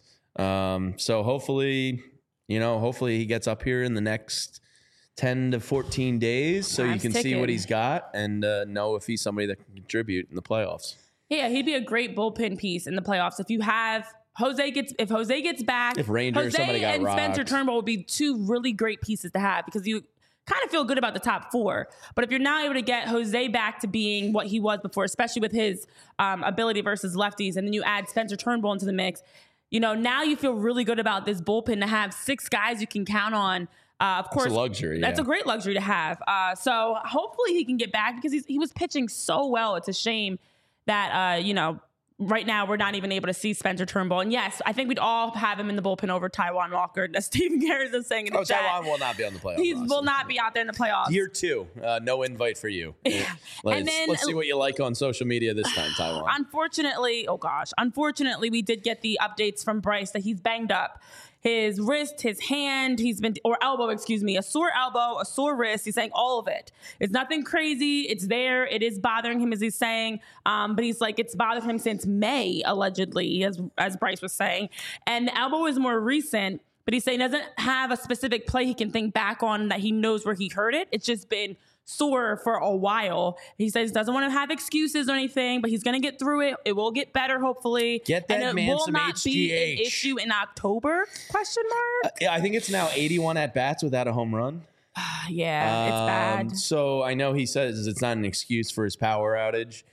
So hopefully he gets up here in the next 10 to 14 days so you can see what he's got and know if he's somebody that can contribute in the playoffs. Yeah, he'd be a great bullpen piece in the playoffs. If you have Jose gets back, if Rangers, Jose somebody got and rocked. Spencer Turnbull would be 2 really great pieces to have because you kind of feel good about the top 4. But if you're not able to get Jose back to being what he was before, especially with his ability versus lefties, and then you add Spencer Turnbull into the mix, now you feel really good about this bullpen to have 6 guys you can count on. Of course, it's a luxury. That's a great luxury to have. So hopefully he can get back because he was pitching so well. It's a shame that, right now we're not even able to see Spencer Turnbull. And yes, I think we'd all have him in the bullpen over Taijuan Walker. As Stephen Garrett is saying in the chat. Taijuan will not be on the playoffs. He will not be out there in the playoffs. Year 2, no invite for you. Let's see what you like on social media this time, Taijuan. Unfortunately, we did get the updates from Bryce that he's banged up. His wrist, his hand, a sore elbow, a sore wrist. He's saying all of it. It's nothing crazy. It's there. It is bothering him, as he's saying. But he's like, it's bothered him since May, allegedly, as Bryce was saying. And the elbow is more recent, but he's saying he doesn't have a specific play he can think back on that he knows where he hurt it. It's just been sore for a while. He says he doesn't want to have excuses or anything, but he's going to get through it. It will get better, hopefully. Get that man some HGH. And it will not be an issue in October, ? I think it's now 81 at-bats without a home run. Yeah, it's bad. So I know he says it's not an excuse for his power outage.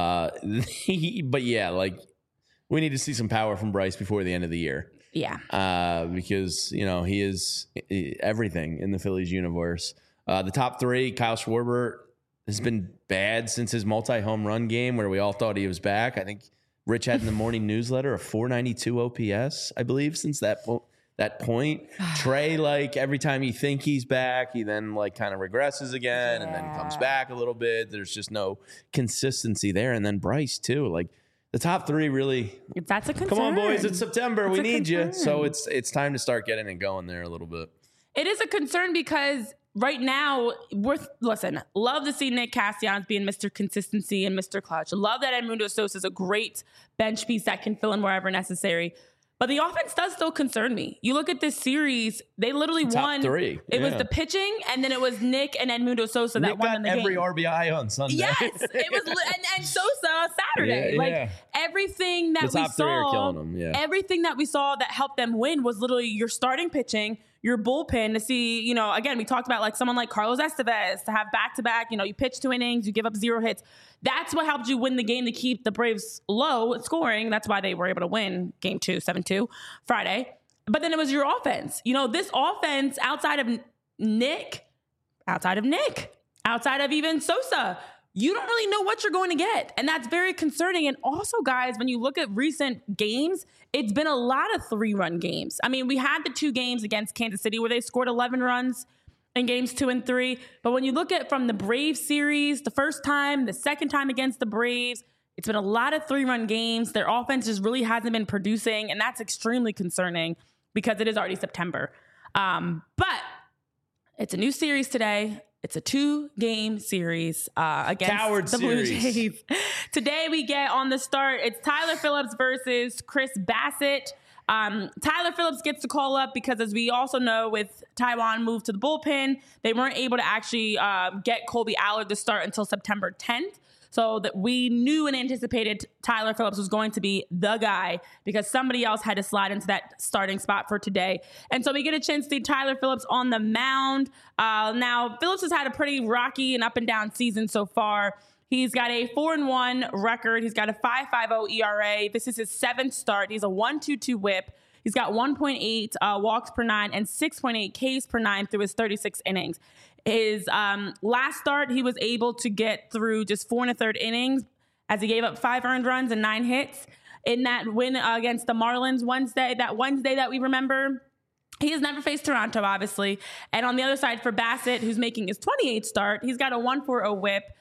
But yeah, we need to see some power from Bryce before the end of the year. Yeah. Because, he is everything in the Phillies universe. The top 3, Kyle Schwarber has been bad since his multi-home run game where we all thought he was back. I think Rich had in the morning newsletter a 492 OPS, I believe, since that point. Trey, every time you think he's back, he then kind of regresses again and then comes back a little bit. There's just no consistency there. And then Bryce, too. The top 3 really. That's a concern. Come on, boys. It's September. We need you. So it's time to start getting it going there a little bit. It is a concern because right now, love to see Nick Castellanos being Mr. Consistency and Mr. Clutch. Love that Edmundo Sosa is a great bench piece that can fill in wherever necessary. But the offense does still concern me. You look at this series, they literally won. Top 3. It was the pitching, and then it was Nick and Edmundo Sosa that won in the game. Nick got every RBI on Sunday. Yes, it was, and Sosa Saturday. Everything that we saw, everything that we saw that helped them win was literally your starting pitching, your bullpen to see, again, we talked about someone like Carlos Estevez to have back-to-back, you pitch 2 innings, you give up 0 hits. That's what helped you win the game to keep the Braves low scoring. That's why they were able to win game 2, 7-2 Friday. But then it was your offense. This offense outside of Nick, outside of even Sosa, you don't really know what you're going to get. And that's very concerning. And also, guys, when you look at recent games, it's been a lot of 3-run games. I mean, we had the 2 games against Kansas City where they scored 11 runs in games 2 and 3. But when you look at from the Braves series, the first time, the second time against the Braves, it's been a lot of 3-run games. Their offense just really hasn't been producing. And that's extremely concerning because it is already September. But it's a new series today. It's a 2-game series against Coward the Blue series. Jays. Today we get on the start. It's Tyler Phillips versus Chris Bassett. Tyler Phillips gets to call up because, as we also know, with Taijuan moved to the bullpen, they weren't able to actually get Colby Allard to start until September 10th. So that we knew and anticipated Tyler Phillips was going to be the guy because somebody else had to slide into that starting spot for today. And so we get a chance to see Tyler Phillips on the mound. Now, Phillips has had a pretty rocky and up and down season so far. He's got a 4-1 record. He's got a 5.50 ERA. This is his 7th start. He's a 1.22 whip. He's got 1.8 walks per 9 and 6.8 Ks per 9 through his 36 innings. His last start, he was able to get through just 4 1/3 innings as he gave up 5 earned runs and 9 hits. In that win against the Marlins Wednesday that we remember, he has never faced Toronto, obviously. And on the other side for Bassett, who's making his 28th start, he's got a 1.40 whip,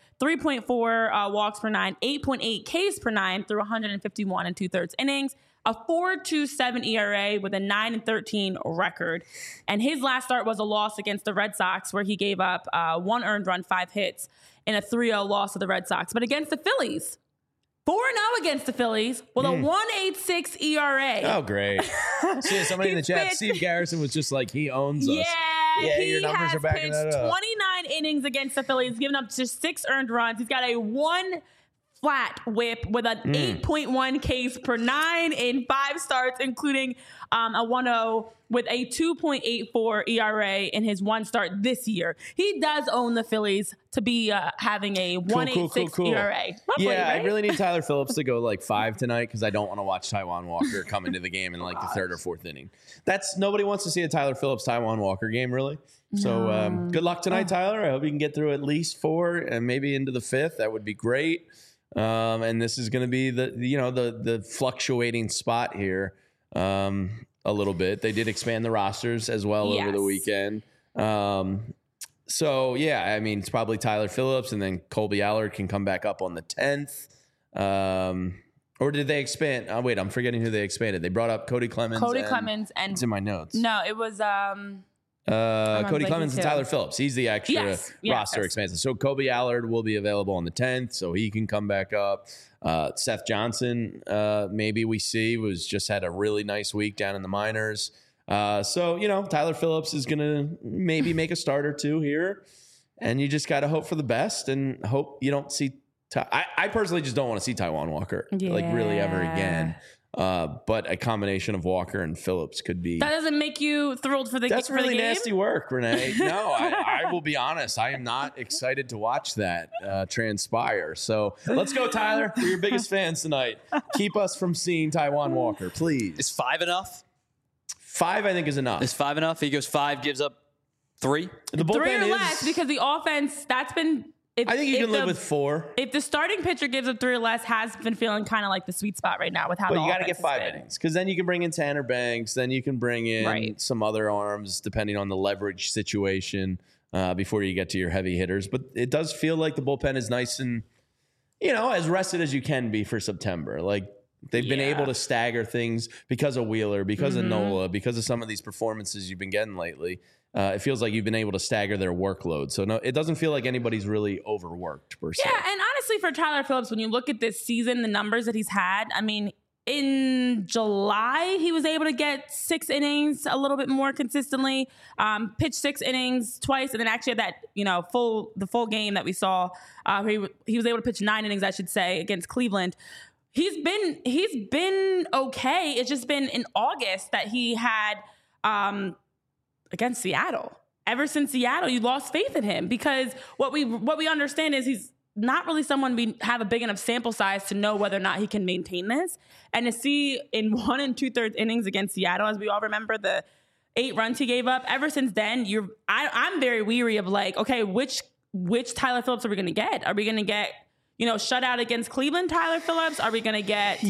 3.4 walks per 9, 8.8 Ks per 9 through 151 2/3 innings. A 4.27 ERA with a 9-13 record. And his last start was a loss against the Red Sox where he gave up 1 earned run, 5 hits in a 3-0 loss to the Red Sox. But against the Phillies, 4-0 against the Phillies with a 1.86 ERA. Oh, great. See, somebody in the chat, Steve Garrison was just like, he owns us. Yeah, He your numbers are backing that up. 29 innings against the Phillies, giving up just 6 earned runs. He's got a 1 flat whip with an 8.1 Ks per 9 in 5 starts, including a 1.0 with a 2.84 ERA in his 1 start this year. He does own the Phillies to be having a 1.86 ERA. Roughly, Yeah, right? I really need Tyler Phillips to go like 5 tonight because I don't want to watch Taijuan Walker come into the game in like the 3rd or 4th inning. Nobody wants to see a Tyler Phillips Taijuan Walker game, really. So good luck tonight, Tyler. I hope you can get through at least 4 and maybe into the 5th. That would be great. And this is going to be the fluctuating spot here a little bit. They did expand the rosters as well over the weekend. So yeah, I mean, it's probably Tyler Phillips and then Colby Allard can come back up on the 10th. Or did they expand? Wait, I'm forgetting who they expanded. They brought up Cody Clemens. And it's in my notes. No, it was Cody Clemens and Tyler Phillips. He's the extra roster yes. expansion. So Colby Allard will be available on the 10th, so he can come back up. Seth Johnson, maybe we see, just had a really nice week down in the minors. So, Tyler Phillips is going to maybe make a start or 2 here, and you just got to hope for the best and hope you don't see. I personally just don't want to see Taijuan Walker really ever again. But a combination of Walker and Phillips could be. That doesn't make you thrilled for the game? That's really nasty work, Renee. No, I will be honest. I am not excited to watch that transpire. So let's go, Tyler. We're your biggest fans tonight. Keep us from seeing Taijuan Walker, please. Is 5 enough? 5, I think, is enough. Is 5 enough? He goes 5, gives up 3. The bullpen 3 or less because the offense, that's been. I think you can live with 4. If the starting pitcher gives up 3 or less, has been feeling kind of like the sweet spot right now with how But the you got to offense get 5 has been. innings because then you can bring in Tanner Banks. Then you can bring in some other arms depending on the leverage situation before you get to your heavy hitters. But it does feel like the bullpen is nice and, as rested as you can be for September. Like they've been able to stagger things because of Wheeler, because of Nola, because of some of these performances you've been getting lately. It feels like you've been able to stagger their workload. So, no, it doesn't feel like anybody's really overworked, per se. Yeah, and honestly, for Tyler Phillips, when you look at this season, the numbers that he's had, I mean, in July, he was able to get 6 innings a little bit more consistently, pitched 6 innings twice, and then actually had that, the full game that we saw. He was able to pitch 9 innings, I should say, against Cleveland. He's been okay. It's just been in August that he had against Seattle. Ever since Seattle, you lost faith in him because what we understand is he's not really someone we have a big enough sample size to know whether or not he can maintain this. And to see in 1 2/3 innings against Seattle, as we all remember, the 8 runs he gave up. Ever since then, I'm very weary of like, okay, which Tyler Phillips are we going to get? Are we going to get shutout against Cleveland, Tyler Phillips? Are we going to get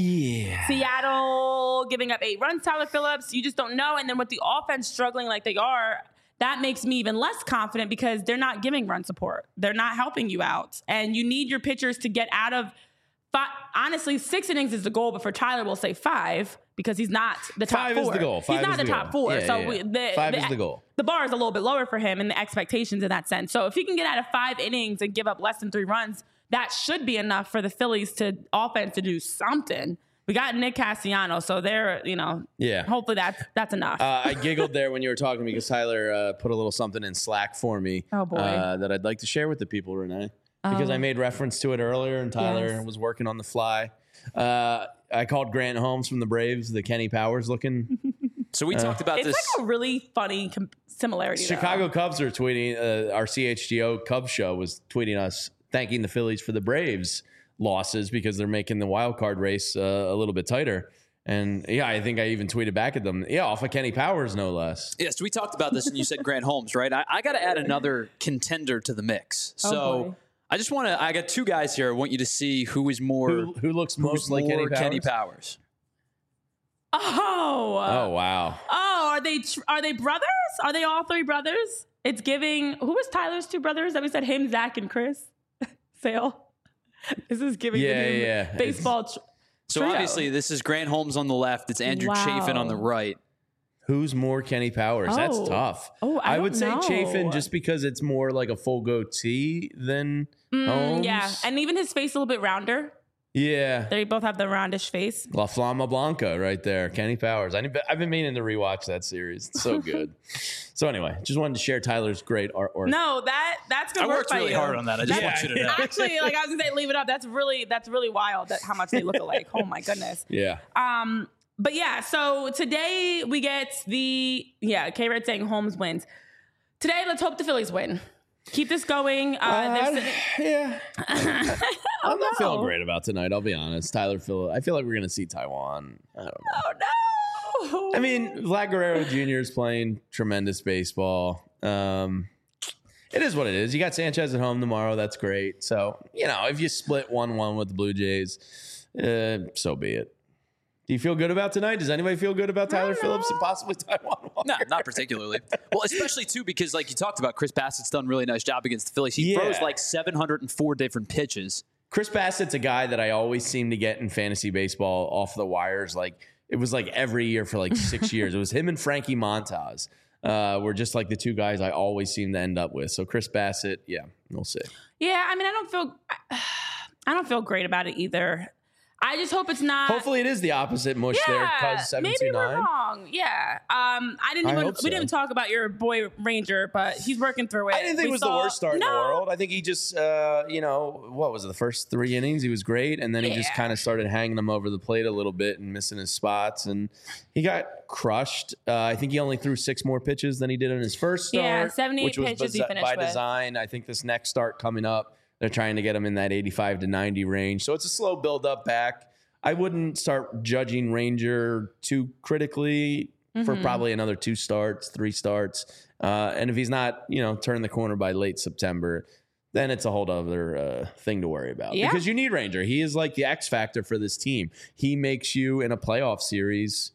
Seattle giving up 8 runs, Tyler Phillips? You just don't know. And then with the offense struggling like they are, that makes me even less confident because they're not giving run support. They're not helping you out. And you need your pitchers to get out of honestly, 6 innings is the goal, but for Tyler, we'll say 5 because he's not the top 5 4. is the goal. He's not the top 4. Yeah, so yeah. 5 is the goal. The bar is a little bit lower for him and the expectations in that sense. So if he can get out of 5 innings and give up less than 3 runs, that should be enough for the Phillies offense to do something. We got Nick Castellanos, so they're, hopefully that's enough. I giggled there when you were talking because Tyler put a little something in Slack for me that I'd like to share with the people, Renee, because I made reference to it earlier and Tyler was working on the fly. I called Grant Holmes from the Braves, the Kenny Powers looking. So we talked about this. It's like a really funny similarity. Chicago Cubs are tweeting, our CHGO Cubs show was tweeting us, thanking the Phillies for the Braves losses because they're making the wild card race a little bit tighter. And I think I even tweeted back at them. Off of Kenny Powers, no less. Yes, we talked about this and you said Grant Holmes, right? I got to add another contender to the mix. So I got 2 guys here. I want you to see who is more. Who looks most like Kenny Powers. Oh wow. Oh, are they brothers? Are they all 3 brothers? It's giving. Who was Tyler's 2 brothers that we said? Him, Zach, and Chris Sale. This is giving baseball. So obviously, this is Grant Holmes on the left. It's Andrew Chafin on the right. Who's more Kenny Powers? That's tough. I would say Chafin just because it's more like a full goatee than Holmes. Yeah, and even his face a little bit rounder. Yeah. They both have the roundish face. La Flama Blanca right there. Kenny Powers. I've been meaning to rewatch that series. It's so good. So anyway, just wanted to share Tyler's great artwork. No, that's good work by you. I worked really hard on that. I just want you to know. Actually, I was going to say, leave it up. That's really wild how much they look alike. Oh, my goodness. Yeah. But yeah, so today we get K-Red saying Holmes wins. Today, let's hope the Phillies win. Keep this going. Yeah. I'm not feeling great about tonight, I'll be honest. Tyler Phillips. I feel like we're going to see Taiwan. I don't know. Oh, no. I mean, Vlad Guerrero Jr. is playing tremendous baseball. It is what it is. You got Sanchez at home tomorrow. That's great. So, if you split 1-1 with the Blue Jays, so be it. Do you feel good about tonight? Does anybody feel good about Tyler Phillips and possibly Taiwan Walker? No, not particularly. Well, especially, too, because like you talked about, Chris Bassett's done a really nice job against the Phillies. He throws like 704 different pitches. Chris Bassett's a guy that I always seem to get in fantasy baseball off the wires. Like, it was like every year for like 6 years. It was him and Frankie Montas were just like the 2 guys I always seem to end up with. So Chris Bassett, we'll see. Yeah, I mean, I don't feel great about it either. I just hope it's not. Hopefully, it is the opposite mush there. Cuz 729. Maybe we're wrong. Yeah. We didn't even talk about your boy Ranger, but he's working through it. I didn't think it was the worst start in the world. I think he just, what was it? The first 3 innings, he was great, and then he just kind of started hanging them over the plate a little bit and missing his spots, and he got crushed. I think he only threw 6 more pitches than he did in his first start. Yeah, 78 which was pitches he finished by with. design. I think this next start coming up, they're trying to get him in that 85 to 90 range. So it's a slow build up back. I wouldn't start judging Ranger too critically for probably another 2 starts, 3 starts. And if he's not, turning the corner by late September, then it's a whole other thing to worry about. Because you need Ranger. He is like the X factor for this team. He makes you in a playoff series,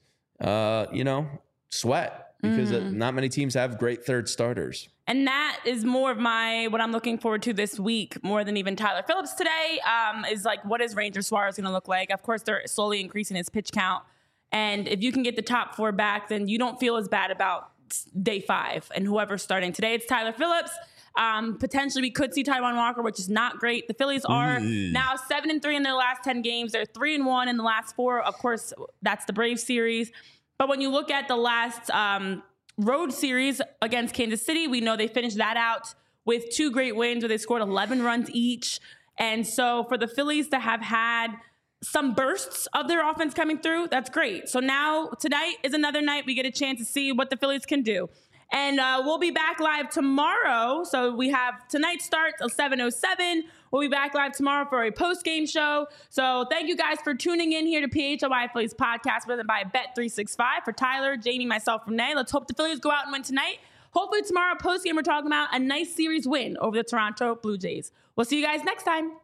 sweat. Because not many teams have great third starters. And that is more of what I'm looking forward to this week, more than even Tyler Phillips today, is like, what is Ranger Suarez going to look like? Of course, they're slowly increasing his pitch count. And if you can get the top 4 back, then you don't feel as bad about day 5 and whoever's starting. Today, it's Tyler Phillips. Potentially, we could see Taiwan Walker, which is not great. The Phillies are now 7-3 in their last 10 games. They're 3-1 in the last 4. Of course, that's the Braves series. But when you look at the last road series against Kansas City, we know they finished that out with 2 great wins where they scored 11 runs each. And so for the Phillies to have had some bursts of their offense coming through, that's great. So now tonight is another night we get a chance to see what the Phillies can do. And we'll be back live tomorrow. So we have tonight starts at 7:07. We'll be back live tomorrow for a post-game show. So thank you guys for tuning in here to PHLY Phillies podcast presented by Bet365. For Tyler, Jamie, myself, Renee, let's hope the Phillies go out and win tonight. Hopefully tomorrow post-game we're talking about a nice series win over the Toronto Blue Jays. We'll see you guys next time.